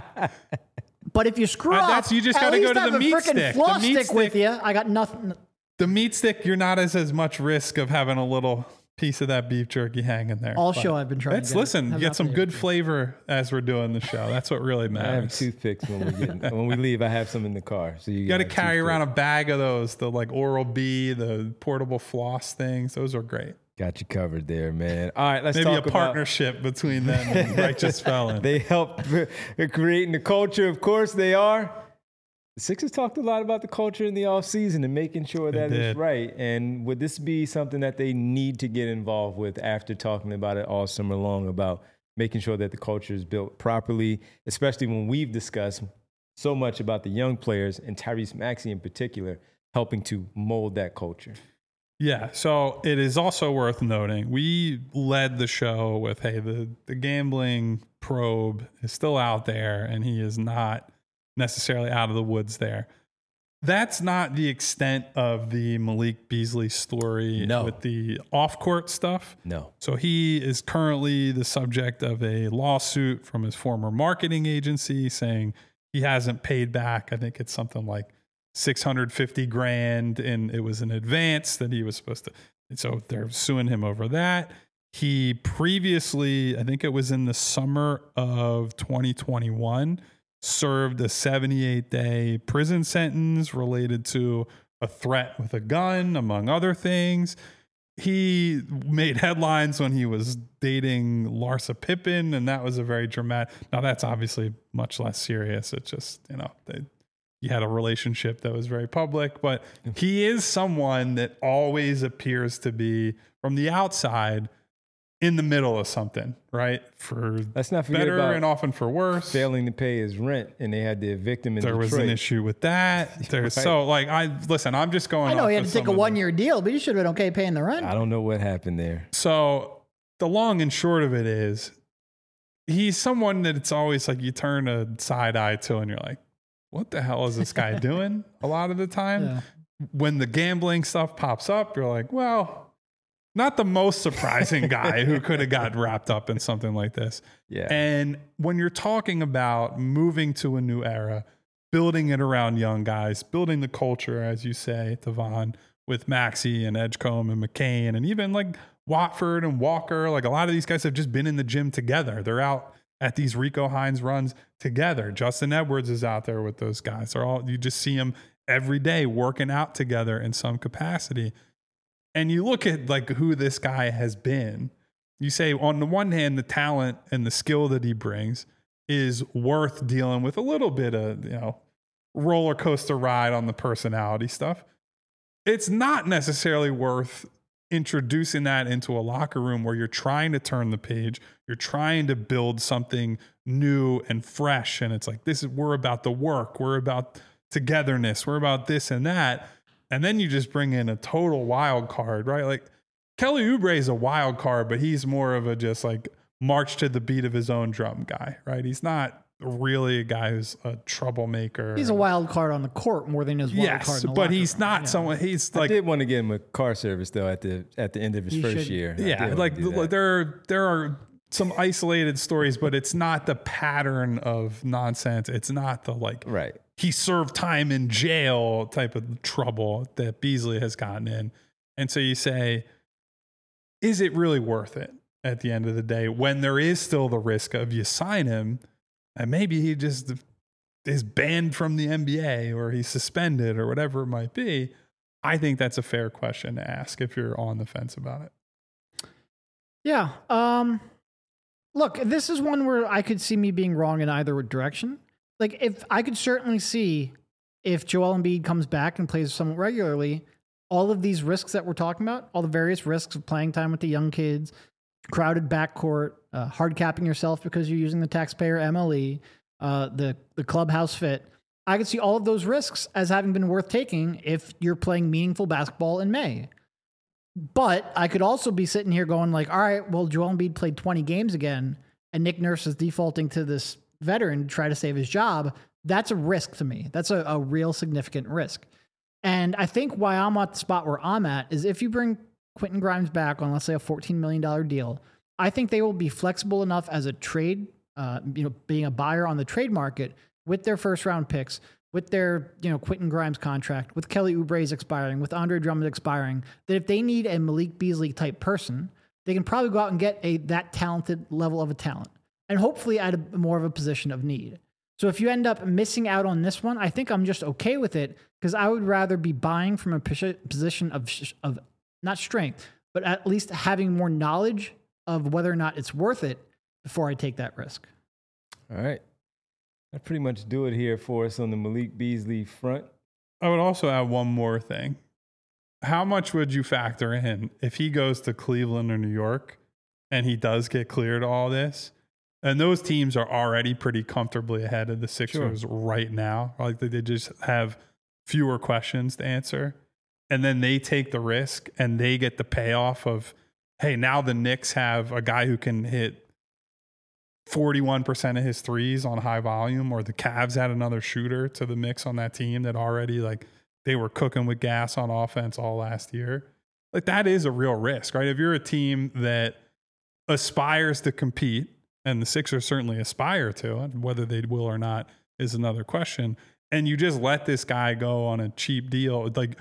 But if you screw Uh, up, that's- you just at gotta go least to have the a meat frickin' stick. The floss meat stick with stick- you. I got nothing. The meat stick, you're not as as much risk of having a little piece of that beef jerky hanging there. All But show I've been trying Let's to get, listen, have get not some been good able to. flavor as we're doing the show. That's what really I have matters. toothpicks when we get when we leave. I have some in the car, so you, You got to carry around a bag of those, the like Oral-B, the portable floss things. Those are great. Got you covered there, man. All right, let's Maybe a talk partnership between them and Righteous Felon. about. They help creating the culture. Of course, they are. The Sixers talked a lot about the culture in the offseason and making sure They that did. it's right. And would this be something that they need to get involved with after talking about it all summer long about making sure that the culture is built properly, especially when we've discussed so much about the young players and Tyrese Maxey in particular, helping to mold that culture. Yeah, so it is also worth noting, we led the show with, hey, the, the gambling probe is still out there and he is not necessarily out of the woods there. That's not the extent of the Malik Beasley story No. with the off-court stuff. No. So he is currently the subject of a lawsuit from his former marketing agency saying he hasn't paid back. I think it's something like six hundred fifty grand, and it was an advance that he was supposed to. And so they're suing him over that. He previously, I think it was in the summer of twenty twenty-one, served a seventy-eight day prison sentence related to a threat with a gun, among other things. He made headlines when he was dating Larsa Pippen, and that was a very dramatic. Now, that's obviously much less serious. It's just, you know, they, he had a relationship that was very public, but he is someone that always appears to be, from the outside, in the middle of something, right? For Let's not forget better about and often for worse. Failing to pay his rent, and they had to evict him in There Detroit. was an issue with that. There's Right. so like I listen. I'm just going. I know off he had of to take some a of the- one year deal, but you should have been okay paying the rent. I don't know what happened there. So the long and short of it is, he's someone that it's always like you turn a side eye to, and you're like, "What the hell is this guy doing?" A lot of the time, Yeah. when the gambling stuff pops up, you're like, "Well, not the most surprising guy who could have got wrapped up in something like this." Yeah. And when you're talking about moving to a new era, building it around young guys, building the culture, as you say, Devon, with Maxey and Edgecombe and McCain, and even like Watford and Walker, like a lot of these guys have just been in the gym together. They're out at these Rico Hines runs together. Justin Edwards is out there with those guys. They're all, you just see them every day working out together in some capacity. And you look at like who this guy has been. You say on the one hand, the talent and the skill that he brings is worth dealing with a little bit of, you know, roller coaster ride on the personality stuff. It's not necessarily worth introducing that into a locker room where you're trying to turn the page. You're trying to build something new and fresh. And it's like, this is, we're about the work. We're about togetherness. We're about this and that. And then you just bring in a total wild card, right? Like Kelly Oubre is a wild card, but he's more of a just like march to the beat of his own drum guy, right? He's not really a guy who's a troublemaker. He's a wild card on the court more than his wild yes, card in the but locker he's room. not Yeah. someone. He's I like, did want to get him a car service though at the at the end of his He first should. year. I did yeah, wanna like do that. there there are some isolated stories, but it's not the pattern of nonsense. It's not the like right. he served time in jail type of trouble that Beasley has gotten in. And so you say, is it really worth it at the end of the day when there is still the risk of you sign him and maybe he just is banned from the N B A or he's suspended or whatever it might be? I think that's a fair question to ask if you're on the fence about it. Yeah. Um, look, this is one where I could see me being wrong in either direction. Like, if I could certainly see if Joel Embiid comes back and plays somewhat regularly, all of these risks that we're talking about, all the various risks of playing time with the young kids, crowded backcourt, uh, hard capping yourself because you're using the taxpayer M L E, uh, the the clubhouse fit. I could see all of those risks as having been worth taking if you're playing meaningful basketball in May. But I could also be sitting here going like, all right, well, Joel Embiid played twenty games again, and Nick Nurse is defaulting to this veteran to try to save his job. That's a risk to me. That's a, a real significant risk. And I think why I'm at the spot where I'm at is if you bring Quentin Grimes back on, let's say, a fourteen million dollars deal, I think they will be flexible enough as a trade, uh, you know, being a buyer on the trade market with their first round picks, with their, you know, Quentin Grimes contract, with Kelly Oubre's expiring, with Andre Drummond expiring, that if they need a Malik Beasley type person, they can probably go out and get a that talented level of a talent, and hopefully at a more of a position of need. So if you end up missing out on this one, I think I'm just okay with it because I would rather be buying from a position of of not strength, but at least having more knowledge of whether or not it's worth it before I take that risk. All right. That pretty much do it here for us on the Malik Beasley front. I would also add one more thing. How much would you factor in if he goes to Cleveland or New York and he does get cleared all this? And those teams are already pretty comfortably ahead of the Sixers Sure. right now. Like they just have fewer questions to answer. And then they take the risk and they get the payoff of, hey, now the Knicks have a guy who can hit forty-one percent of his threes on high volume, or the Cavs had another shooter to the mix on that team that already, like, they were cooking with gas on offense all last year. Like, that is a real risk, right? If you're a team that aspires to compete, and the Sixers certainly aspire to, and whether they will or not is another question, and you just let this guy go on a cheap deal, like,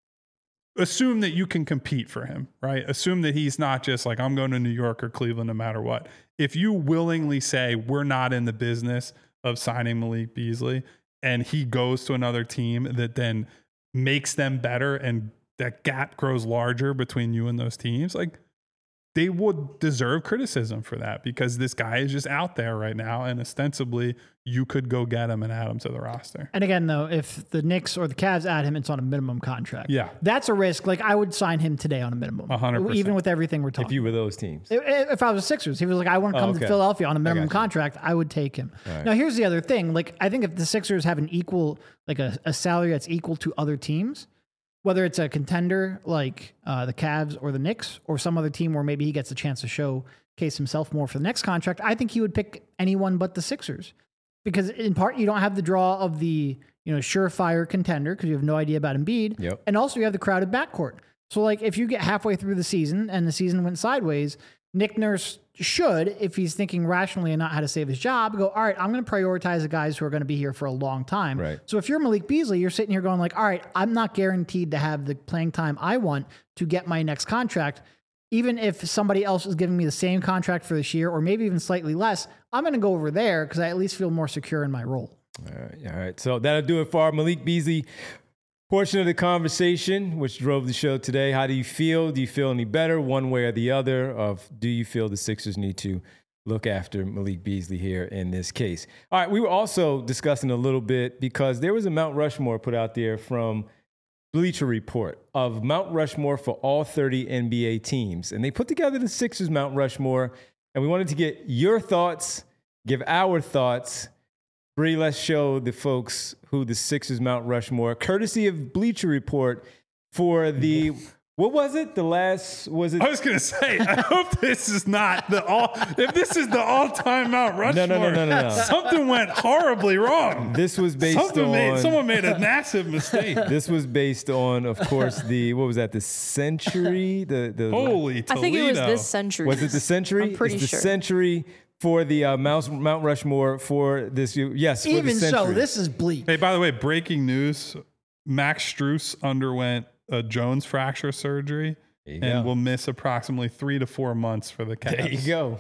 assume that you can compete for him, right? Assume that he's not just like, I'm going to New York or Cleveland no matter what. If you willingly say, we're not in the business of signing Malik Beasley, and he goes to another team that then makes them better and that gap grows larger between you and those teams, like, they would deserve criticism for that, because this guy is just out there right now, and ostensibly you could go get him and add him to the roster. And again, though, if the Knicks or the Cavs add him, it's on a minimum contract. Yeah. That's a risk. Like, I would sign him today on a minimum. one hundred percent. Even with everything we're talking If you were those teams. If, if I was a Sixers, he was like, I want to come Oh, okay. to Philadelphia on a minimum got you. contract, I would take him. right. Now, here's the other thing. Like, I think if the Sixers have an equal, like a, a salary that's equal to other teams, whether it's a contender like uh, the Cavs or the Knicks, or some other team where maybe he gets a chance to showcase himself more for the next contract, I think he would pick anyone but the Sixers. Because in part, you don't have the draw of the, you know, surefire contender because you have no idea about Embiid. Yep. And also you have the crowded backcourt. So like if you get halfway through the season and the season went sideways, Nick Nurse should, if he's thinking rationally and not how to save his job, go, all right, I'm going to prioritize the guys who are going to be here for a long time. Right. So if you're Malik Beasley, you're sitting here going like, all right, I'm not guaranteed to have the playing time I want to get my next contract. Even if somebody else is giving me the same contract for this year, or maybe even slightly less, I'm going to go over there because I at least feel more secure in my role. All right, all right. So that'll do it for our Malik Beasley portion of the conversation, which drove the show today. How do you feel? Do you feel any better one way or the other? Of do you feel the Sixers need to look after Malik Beasley here in this case? All right, we were also discussing a little bit because there was a Mount Rushmore put out there from Bleacher Report of Mount Rushmore for all thirty N B A teams. And they put together the Sixers Mount Rushmore, and we wanted to get your thoughts, give our thoughts. Bree, let's show the folks who the Sixers Mount Rushmore, courtesy of Bleacher Report, for the, what was it? The last, was it? I was going to say, I hope this is not the all, if this is the all-time Mount Rushmore, No, no, no, no, no, no. something went horribly wrong. This was based Something on, made, someone made a massive mistake. this was based on, of course, the, what was that? The Century? The, the Holy I Toledo. think it was this century. Was it the Century? I'm pretty it's the sure. Century for the uh, Mount, Mount Rushmore for this. Yes, for Even the Century. so, this is bleak. Hey, by the way, breaking news, Max Strus underwent a Jones fracture surgery There you and go. will miss approximately three to four months for the Cavs. There you go.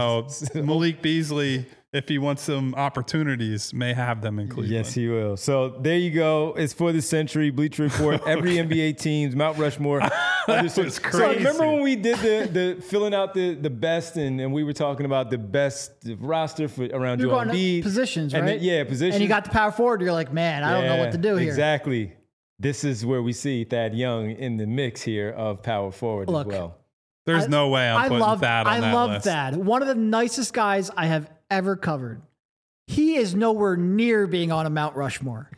So Malik Beasley, if he wants some opportunities, may have them in Cleveland. Yes, he will. So there you go. It's for the Century. Bleacher Report. Every N B A team's Mount Rushmore. That was So crazy. remember when we did the, the filling out the, the best and, and we were talking about the best roster for around You're Joel going to Embiid. positions, And right? then- yeah, positions. And you got the power forward. You're like, man, I don't know what to do Yeah, here. Exactly. This is where we see Thad Young in the mix here of power forward Look, as well. There's I- no way I'm I putting love Thad on I that love list. Thad. One of the nicest guys I have ever covered. He is nowhere near being on a Mount Rushmore.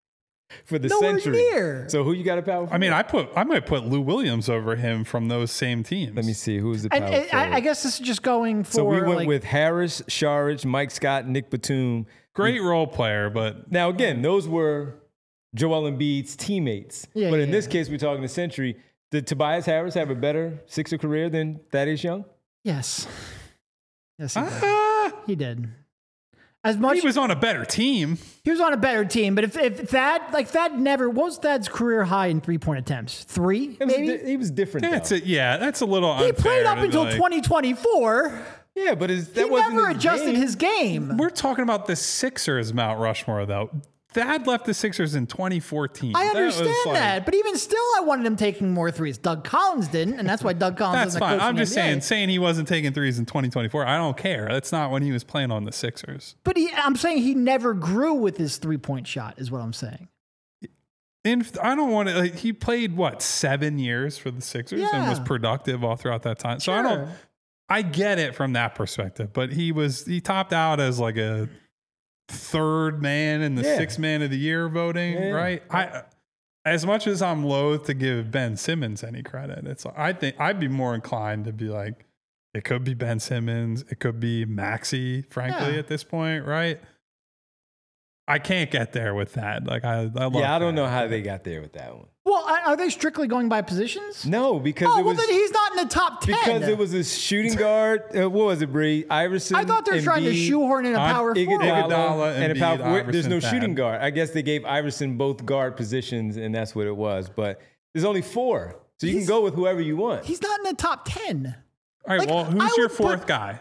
For the Nowhere Century. near. So who you got a power forward? I mean, I put I might put Lou Williams over him from those same teams. Let me see. Who's the power And, and forward? I, I guess this is just going for so we went like, with Harris, Sharich, Mike Scott, Nick Batum. Great role player, but Now, again, those were Joel Embiid's teammates. Yeah, but yeah, in this yeah. case, we're talking the Century. Did Tobias Harris have a better Sixer career than Thaddeus Young? yes, yes, he did. ah, He did. As much he was on a better team. he was on a better team, but if if Thad like Thad never what was Thad's career high in three point attempts? Three, It was maybe. di- he was different. That's though. it. Yeah, that's a little He unfair. played up to be until like- twenty twenty-four. Yeah, but is, that He wasn't never his adjusted game. his game. We're talking about the Sixers Mount Rushmore, though. Thad left the Sixers in twenty fourteen. I That was understand like- that, but even still, I wanted him taking more threes. Doug Collins didn't, and that's why Doug Collins. That's doesn't fine. coach in I'm the just N B A. saying, saying he wasn't taking threes in twenty twenty-four. I don't care. That's not when he was playing on the Sixers. But he, I'm saying he never grew with his three point shot, is what I'm saying. And I don't want to. Like, he played what seven years for the Sixers and was Yeah. productive all throughout that time. So I don't. Sure. I get it from that perspective, but he was he topped out as like a third man in the Yeah. sixth man of the year voting, Yeah. right? I as much as I'm loath to give Ben Simmons any credit, it's I think I'd be more inclined to be like, it could be Ben Simmons, it could be Maxey, frankly, Yeah. at this point, right? I can't get there with that. Like I, I love Yeah, I don't that. know how they got there with that one. Well, are are they strictly going by positions? No, because Oh, it well, was then he's not in the top ten. because it was a shooting guard. Uh, what was it, Bree? Iverson. I thought they were trying to Embiid, shoehorn in a Iguodala, power forward. Iguodala, and a Embiid, power forward. There's no Iverson, shooting Thad. guard. I guess they gave Iverson both guard positions, and that's what it was. But there's only four, so you He's- can go with whoever you want. He's not in the top ten. All right, Like, well, I who's your would fourth put- guy?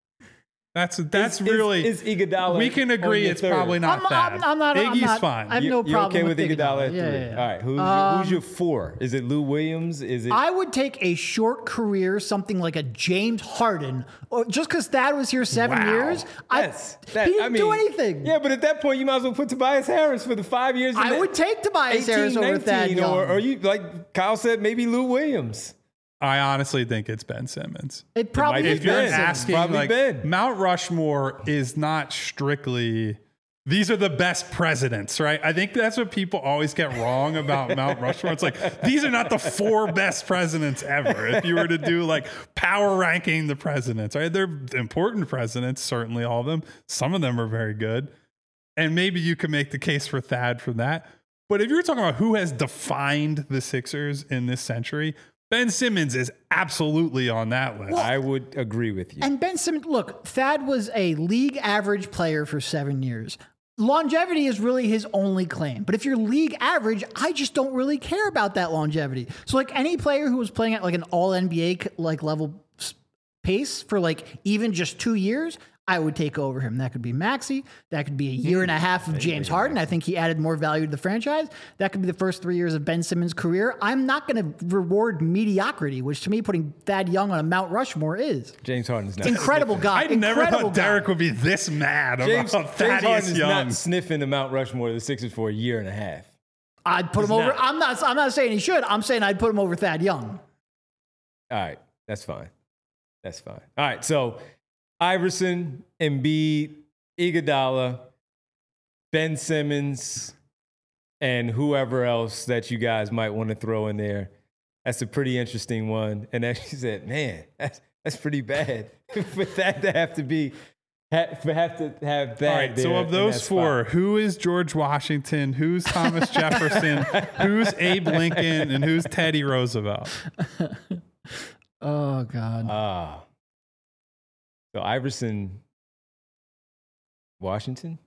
That's that's Is- really. is, is Iguodala. we can on agree your it's third? probably not I'm, Thad. I'm, I'm not. I'm Iggy's not, fine. I have You- no you're problem okay with Iguodala at three. Yeah, yeah, yeah. All right, who's, Um, your, who's your four? Is it Lou Williams? Is it? I would take a short career, something like a James Harden, or just because Thad was here seven Wow. years. I, That's, that, he didn't I mean, do anything. Yeah, but at that point, you might as well put Tobias Harris for the five years. in I the- would take Tobias eighteen, Harris over Thad nineteen, Young. or, or you like Kyle said, maybe Lou Williams. I honestly think it's Ben Simmons. it probably might is be If you're Ben. Ben Simmons. asking, Probably like Ben. Mount Rushmore is not strictly. These are the best presidents, right? I think that's what people always get wrong about Mount Rushmore. It's like these are not the four best presidents ever. If you were to do like power ranking the presidents, right? They're important presidents, certainly all of them. Some of them are very good, and maybe you could make the case for Thad for that. But if you're talking about who has defined the Sixers in this century, Ben Simmons is absolutely on that list. I would agree with you. And Ben Simmons, look, Thad was a league average player for seven years. Longevity is really his only claim. But if you're league average, I just don't really care about that longevity. So like any player who was playing at like an all N B A like level s- pace for like even just two years, I would take over him. That could be Maxey. That could be a year and a half of James Harden. I think he added more value to the franchise. That could be the first three years of Ben Simmons' career. I'm not going to reward mediocrity, which to me, putting Thad Young on a Mount Rushmore is. James Harden's not. Incredible guy. I never Incredible thought guy. Derek would be this mad James, about James Harden Thaddeus is Young. not sniffing the Mount Rushmore of the Sixers for a year and a half. I'd put him He's over. not. I'm not. I'm not saying he should. I'm saying I'd put him over Thad Young. All right, that's fine. That's fine. All right, so Iverson, Embiid, Iguodala, Ben Simmons, and whoever else that you guys might want to throw in there. That's a pretty interesting one. And as you said, man, that's that's pretty bad for that to have to be have, for have to have that. All right, so there of in those that four, spot. who is George Washington, who's Thomas Jefferson, who's Abe Lincoln, and who's Teddy Roosevelt? Oh God. Ah, so Iverson, Washington.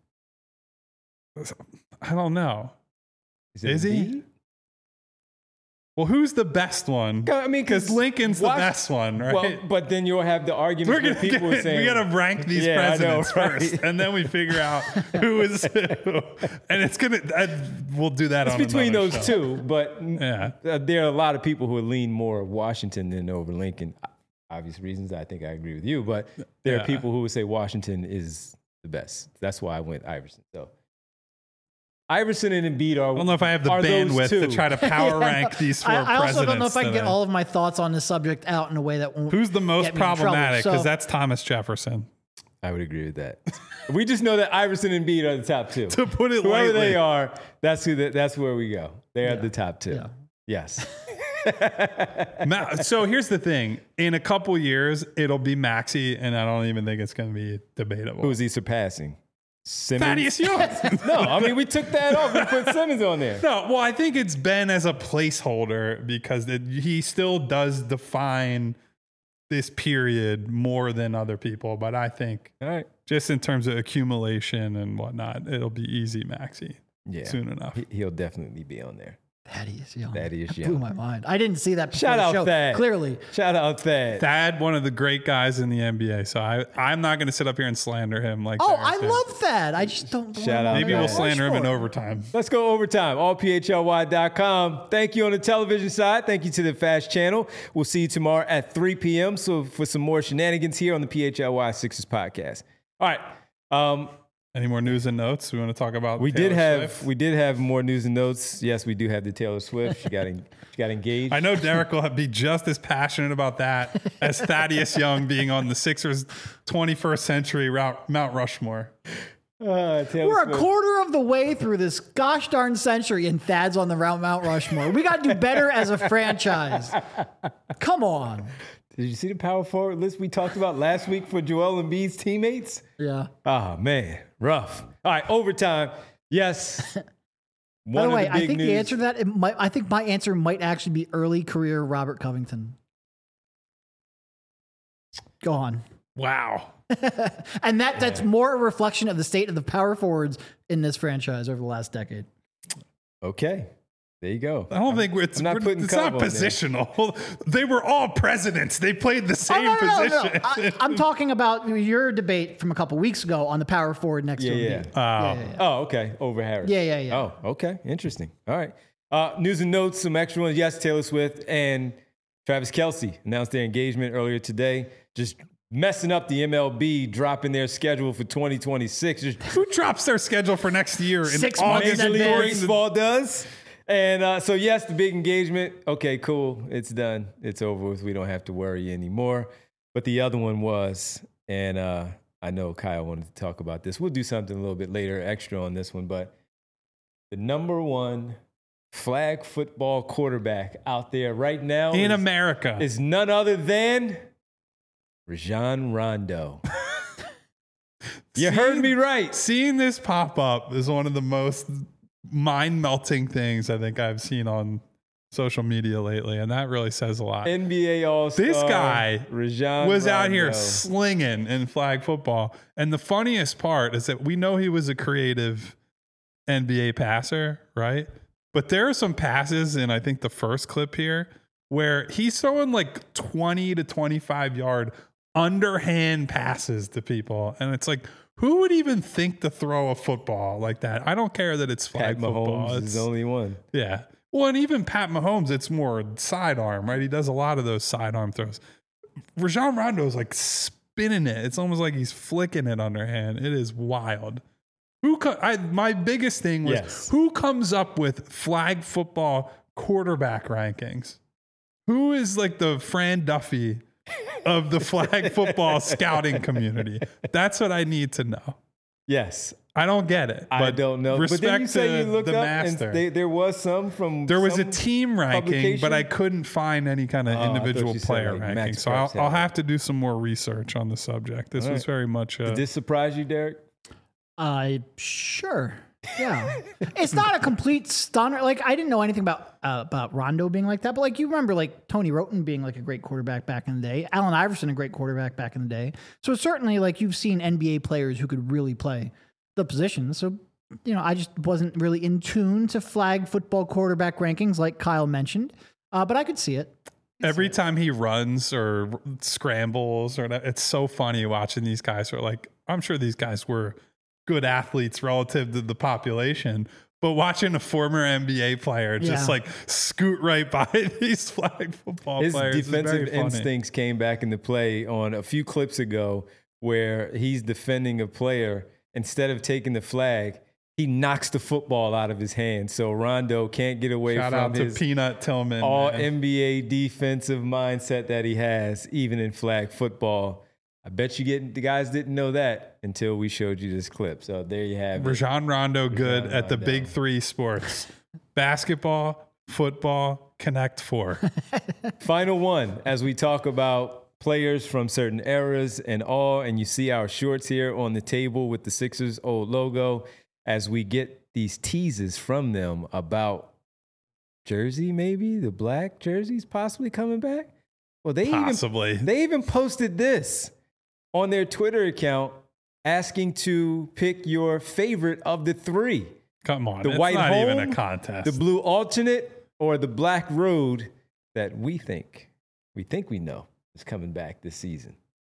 I don't know. Is, it Is he? Embiid? Well, who's the best one? I mean, Because Lincoln's the Wash- best one, right? Well, but then you'll have the argument We're where gonna people get, are saying we gotta rank these Yeah, I know, presidents right? first, and then we figure out who is who. And it's gonna. I, we'll do that. it's on between another those show. two. But Yeah. uh, there are a lot of people who lean more Washington than over Lincoln. Obvious reasons. I think I agree with you. But there Yeah. are people who would say Washington is the best. That's why I went Iverson. So Iverson and Embiid are. I don't know if I have the are those bandwidth two. to try to power Yeah. rank these four I, I also presidents. don't know if I can get today. all of my thoughts on this subject out in a way that won't. Who's the most get me in trouble. problematic? Because So- that's Thomas Jefferson. I would agree with that. We just know that Iverson and Embiid are the top two. To put it Whoever lightly. they are, that's who. The, that's where we go. They are the top two. Yeah. Yes. Ma- so here's the thing: in a couple years, it'll be Maxey, and I don't even think it's going to be debatable. Who is he surpassing? Simmons? Thaddeus Young? No, I mean we took that off. We put Simmons on there. No, well, I think it's Ben as a placeholder because it, he still does define this period more than other people. But I think All right. just in terms of accumulation and whatnot, it'll be easy Maxey Yeah. soon enough. He, he'll definitely be on there. Thaddeus Young. Thaddeus That Young. blew my mind. I didn't see that before Shout the out show. Thad. Clearly. Shout out Thad. Thad, one of the great guys in the N B A. So I, I'm not going to sit up here and slander him like Oh, Derek I did. love Thad. I just don't. Shout out Maybe Thad. we'll slander him in over. overtime. Let's go overtime. all p h l y dot com. Thank you on the television side. Thank you to the Fast Channel. We'll see you tomorrow at three p.m. So for some more shenanigans here on the P H L Y Sixers podcast. All right. Um, Any more news and notes we want to talk about? We Taylor did have Swift? we did have more news and notes. Yes, we do have the Taylor Swift. She got en- she got engaged. I know Derek will be just as passionate about that as Thaddeus Young being on the Sixers twenty-first century route, Mount Rushmore. Uh, Taylor We're Swift. a quarter of the way through this gosh darn century, and Thad's on the Mount Mount Rushmore. We got to do better as a franchise. Come on. Did you see the power forward list we talked about last week for Joel Embiid's teammates? Yeah. Oh man, rough. All right, overtime. Yes. By the One way, of the I big think news. the answer to that, it might, I think my answer might actually be early career Robert Covington. Go on. Wow. And that that's more a reflection of the state of the power forwards in this franchise over the last decade. Okay, there you go. I don't think it's, I'm not we're- putting it's not Cove on there. positional. They were all presidents. They played the Oh, same no, no, no, no. position. I, I'm talking about your debate from a couple weeks ago on the power forward next Yeah, to yeah. Embiid. Oh. yeah, yeah, yeah. Oh, okay. Over Harris. Yeah, yeah, yeah. Oh, okay. Interesting. All right. Uh, news and notes, some extra ones. Yes, Taylor Swift and Travis Kelce announced their engagement earlier today. Just messing up the M L B, dropping their schedule for twenty twenty-six. Just Who drops their schedule for next year in Six months August? in Major League advance. Baseball does. And uh, so, yes, the big engagement. Okay, cool. It's done. It's over with. We don't have to worry anymore. But the other one was, and uh, I know Kyle wanted to talk about this. We'll do something a little bit later, extra on this one. But the number one flag football quarterback out there right now In is, America. is none other than Rajon Rondo. You heard me right. Seeing this pop up is one of the most mind melting things I think I've seen on social media lately. And that really says a lot. N B A All-Star. This guy Rajon was out here Rondo. slinging in flag football. And the funniest part is that we know he was a creative N B A passer, right? But there are some passes in, I think, the first clip here where he's throwing like twenty to twenty-five yard underhand passes to people. And it's like, who would even think to throw a football like that? I don't care that it's flag Pat football. Mahomes It's, is the only one. yeah. Well, and even Pat Mahomes, it's more sidearm, right? He does a lot of those sidearm throws. Rajon Rondo is like spinning it. It's almost like he's flicking it underhand. It is wild. Who? Co- I, my biggest thing was Yes. who comes up with flag football quarterback rankings? Who is like the Fran Duffy of the flag football scouting community? That's what I need to know. Yes. I don't get it. I but don't know. Respect but then you say to you looked the up master. and they, there was some from There was some a team ranking, publication? but I couldn't find any kind of Oh, I thought individual you said, player like, ranking. Max So I'll, Preps had I'll it. have to do some more research on the subject. This All was right. very much a, Did this surprise you, Derek? Uh, sure. Yeah. It's not a complete stunner. Like, I didn't know anything about uh, about Rondo being like that, but like, you remember like Tony Roten being like a great quarterback back in the day, Allen Iverson, a great quarterback back in the day. So certainly, like, you've seen N B A players who could really play the position. So, you know, I just wasn't really in tune to flag football quarterback rankings, like Kyle mentioned, uh, but I could see it. every time he runs or scrambles or that, it's so funny watching these guys who are like, I'm sure these guys were good athletes relative to the population, but watching a former N B A player just Yeah. like scoot right by these flag football His players is defensive very funny. instincts came back into play on a few clips ago where he's defending a player. Instead of taking the flag, he knocks the football out of his hand. So Rondo can't get away Shout from out to his Peanut Tillman. all man. N B A defensive mindset that he has, even in flag football. I bet you get the guys didn't know that until we showed you this clip. So there you have it. Rajon Rondo good Rajon at the Rondo. big three sports: basketball, football, Connect Four. Final one, as we talk about players from certain eras and all, and you see our shorts here on the table with the Sixers old logo, as we get these teases from them about jersey, maybe the black jerseys possibly coming back. Well, they Possibly. even they even posted this on their Twitter account, asking to pick your favorite of the three: Come on, the it's white not home, even a contest. the blue alternate, or the black road that we think we think we know is coming back this season.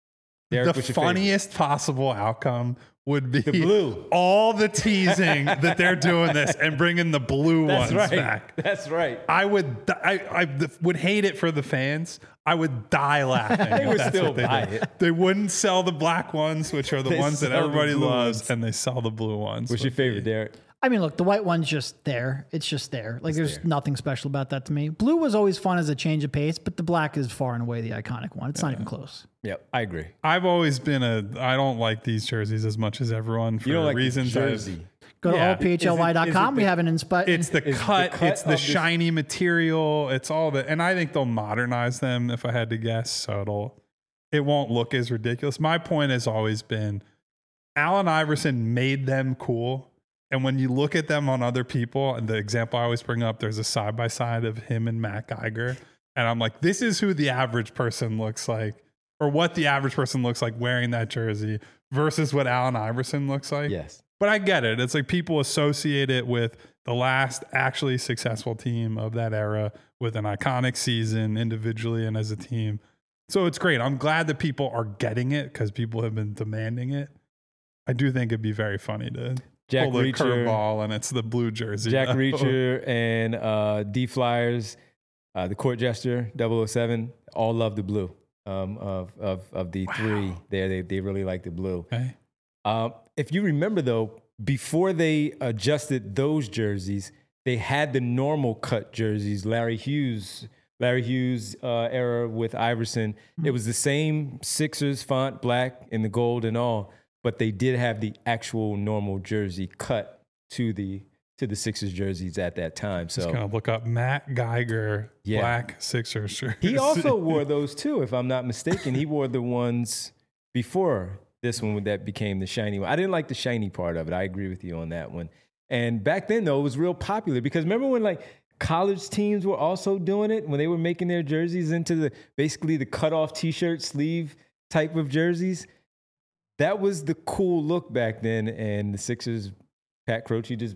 Derek, the what's your funniest possible outcome would be The blue. all the teasing that they're doing this and bringing the blue That's ones right. back. That's right. I would, di- I, I would hate it for the fans. I would die laughing. They if would that's still what they buy did. it. They wouldn't sell the black ones, which are the They ones that sell the everybody blue loves, ones. and they sell the blue ones. What's your Would favorite, be- Derek? I mean, look, the white one's just there. It's just there. Like, there's there. nothing special about that to me. Blue was always fun as a change of pace, but the black is far and away the iconic one. It's not even close. Yep, I agree. I've always been a. I don't like these jerseys as much as everyone for You don't like reasons. the I've- jersey. Go to Yeah. all P H L Y dot com. Is it- is it We the- have an inspi- It's the Is the cut, cut it's the of this- shiny material, it's all the, and I think they'll modernize them if I had to guess, so it'll, it won't look as ridiculous. My point has always been, Allen Iverson made them cool, and when you look at them on other people, and the example I always bring up, there's a side by side of him and Matt Geiger, and I'm like, this is who the average person looks like, or what the average person looks like wearing that jersey versus what Allen Iverson looks like. Yes. But I get it. It's like people associate it with the last actually successful team of that era with an iconic season individually and as a team. So it's great. I'm glad that people are getting it because people have been demanding it. I do think it'd be very funny to Jack pull the Reacher. curveball and it's the blue jersey. Jack though. Reacher and uh, D Flyers, uh, the court jester, double oh seven, all love the blue um, of, of, of the three there. They, they really like the blue. Okay. Um, if you remember, though, before they adjusted those jerseys, they had the normal cut jerseys, Larry Hughes, Larry Hughes uh, era with Iverson. It was the same Sixers font, black and the gold and all, but they did have the actual normal jersey cut to the to the Sixers jerseys at that time. So Just gonna look up Matt Geiger, Yeah. black Sixers shirt. he also wore those too, if I'm not mistaken. He wore the ones before this one that became the shiny one. I didn't like the shiny part of it. I agree with you on that one. And back then, though, it was real popular because remember when like college teams were also doing it when they were making their jerseys into the basically the cutoff T-shirt sleeve type of jerseys. That was the cool look back then, and the Sixers, Pat Croce just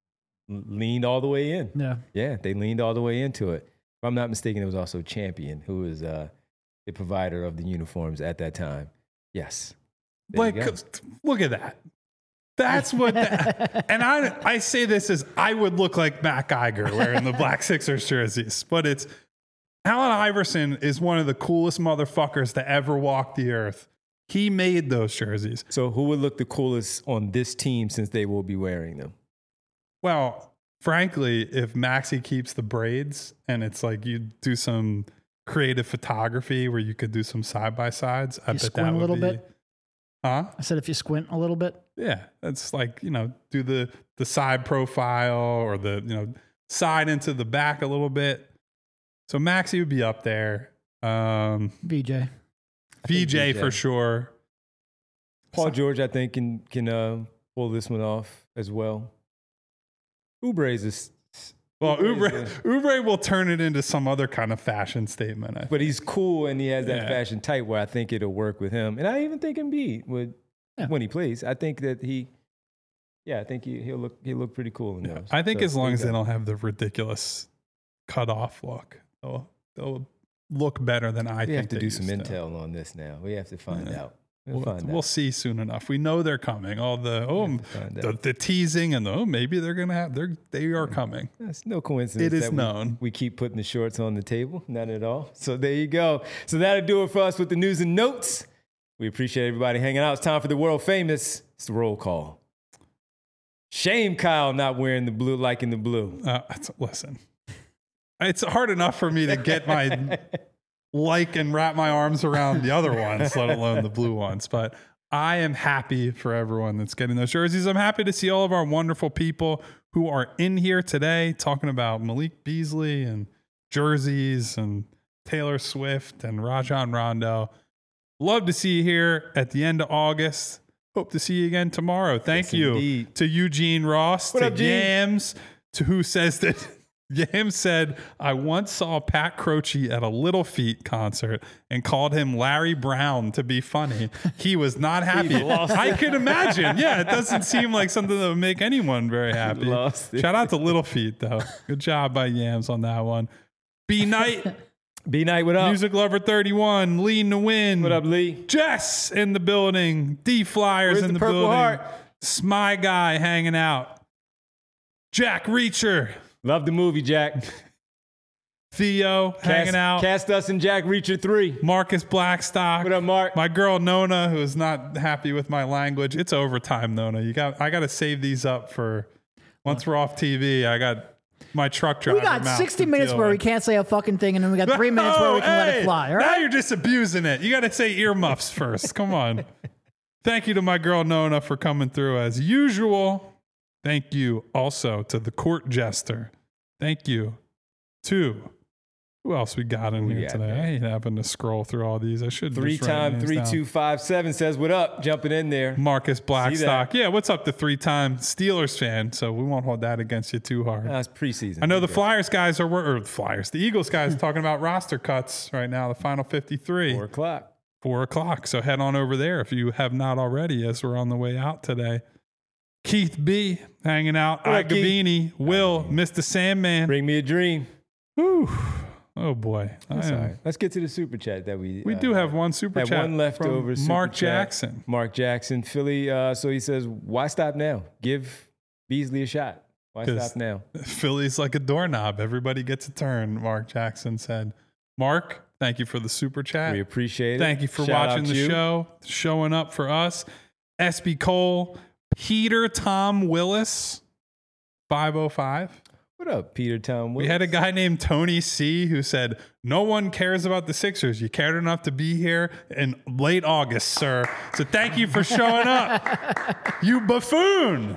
leaned all the way in. Yeah. Yeah, they leaned all the way into it. If I'm not mistaken, it was also Champion, who was uh, the provider of the uniforms at that time. Yes. There Like, you go. look at that. That's what, that, and I I say this as I would look like Matt Geiger wearing the black Sixers jerseys, but it's Allen Iverson is one of the coolest motherfuckers to ever walk the earth. He made those jerseys. So who would look the coolest on this team since they will be wearing them? Well, frankly, if Maxey keeps the braids and it's like you do some creative photography where you could do some side by sides, I You bet squint that a would little be, bit? Huh? I said if you squint a little bit. Yeah, that's like, you know, do the the side profile or the, you know, side into the back a little bit. So Maxey would be up there. Um, V J. V J V J. for sure. Paul George, I think, can can uh, pull this one off as well. Oubre is, a, Well, Oubre Oubre, is a- Oubre will turn it into some other kind of fashion statement. I think. but he's cool and he has that Yeah. fashion type where I think it'll work with him. And I even think Embiid would Yeah. when he plays. I think that he, yeah, I think he, he'll look he'll look pretty cool in Yeah, those. I think So, as long there as you they go. don't have the ridiculous cut off look, they'll, they'll look better than I we think have to they do some used to. intel on this now. We have to find Yeah. out. We'll, We'll, find we'll out. see soon enough. We know they're coming. All the oh, have to find the, out. the teasing and the oh, maybe they're gonna have they're they are coming. It's no coincidence. It is that we- known. We, keep putting the shorts on the table. None at all. So there you go. So that'll do it for us with the news and notes. We appreciate everybody hanging out. It's time for the world famous. It's the roll call. Shame Kyle not wearing the blue, liking the blue. Uh, it's- listen, it's hard enough for me to get my like and wrap my arms around the other ones, let alone the blue ones. But I am happy for everyone that's getting those jerseys. I'm happy to see all of our wonderful people who are in here today talking about Malik Beasley and jerseys and Taylor Swift and Rajon Rondo. Love to see you here at the end of August. Hope to see you again tomorrow. Thank Yes, you indeed. to Eugene Ross, What to up, Gene? Yams, to who says that Yams said, I once saw Pat Croce at a Little Feat concert and called him Larry Brown to be funny. He was not happy. lost I could imagine. Yeah, it doesn't seem like something that would make anyone very happy. Lost it. Shout out to Little Feat, though. Good job by Yams on that one. B Night. B Night, what up? Music Lover thirty-one, leading the win. What up, Lee? Jess in the building. D Flyers Where's in the the, Purple building. Heart? Smy Guy hanging out. Jack Reacher. Love the movie, Jack. Theo Cast, hanging out. Cast us in Jack Reacher three. Marcus Blackstock. What up, Mark? My girl Nona, who is not happy with my language. It's overtime, Nona. You got. I got to save these up for once we're off T V. I got my truck driver. We got mouth sixty to minutes deal where we with. can't say a fucking thing, and then we got three minutes where we can Oh, let hey, it fly. All Now right. you're just abusing it. You got to say earmuffs first. Come on. Thank you to my girl Nona for coming through as usual. Thank you also to the court jester. Thank you to who else we got in Who we here got today? there? I ain't having to scroll through all these. I should Three just write time names three down. two five seven says, what up? Jumping in there. Marcus Blackstock. that. Yeah, what's up, the three-time Steelers fan? So we won't hold that against you too hard. That's preseason. I know the Okay. Flyers guys are, or the Flyers, the Eagles guys are talking about roster cuts right now, the final fifty-three. Four o'clock. Four o'clock. So head on over there if you have not already, as we're on the way out today. Keith B hanging out. What up, Keith? Igavini. Will, Mister Sandman. Bring me a dream. Whew. Oh boy. That's I am- all right. Let's get to the super chat that we We uh, do have one super had chat. one leftover from super Mark chat. Jackson. Mark Jackson, Philly. Uh, so he says, why stop now? Give Beasley a shot. Why 'Cause stop now? Philly's like a doorknob. Everybody gets a turn, Mark Jackson said. Mark, thank you for the super chat. We appreciate it. Thank you for Shout watching out the you. show, showing up for us. S B Cole, Peter Tom Willis, five oh five. What up, Peter Tom Willis? We had a guy named Tony C who said, no one cares about the Sixers. You cared enough to be here in late August, sir. So thank you for showing up. You buffoon.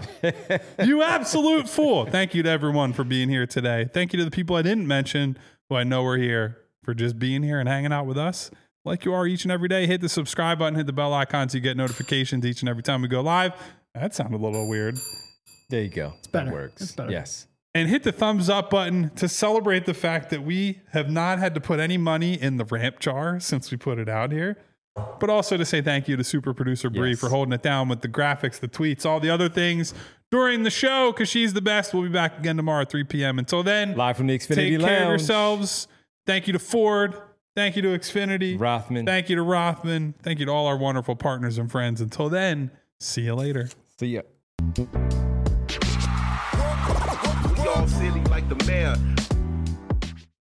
You absolute fool. Thank you to everyone for being here today. Thank you to the people I didn't mention who I know are here for just being here and hanging out with us like you are each and every day. Hit the subscribe button, hit the bell icon so you get notifications each and every time we go live. That sounded a little weird. There you go. It's better. That works. It's better. Yes. And hit the thumbs up button to celebrate the fact that we have not had to put any money in the ramp jar since we put it out here. But also to say thank you to super producer Bree Yes. for holding it down with the graphics, the tweets, all the other things during the show because she's the best. We'll be back again tomorrow at three p.m. Until then, Live from the Xfinity take Lounge. care of yourselves. Thank you to Ford. Thank you to Xfinity. Rothman. Thank you to Rothman. Thank you to all our wonderful partners and friends. Until then, see you later. See ya. Y'all silly like the mayor.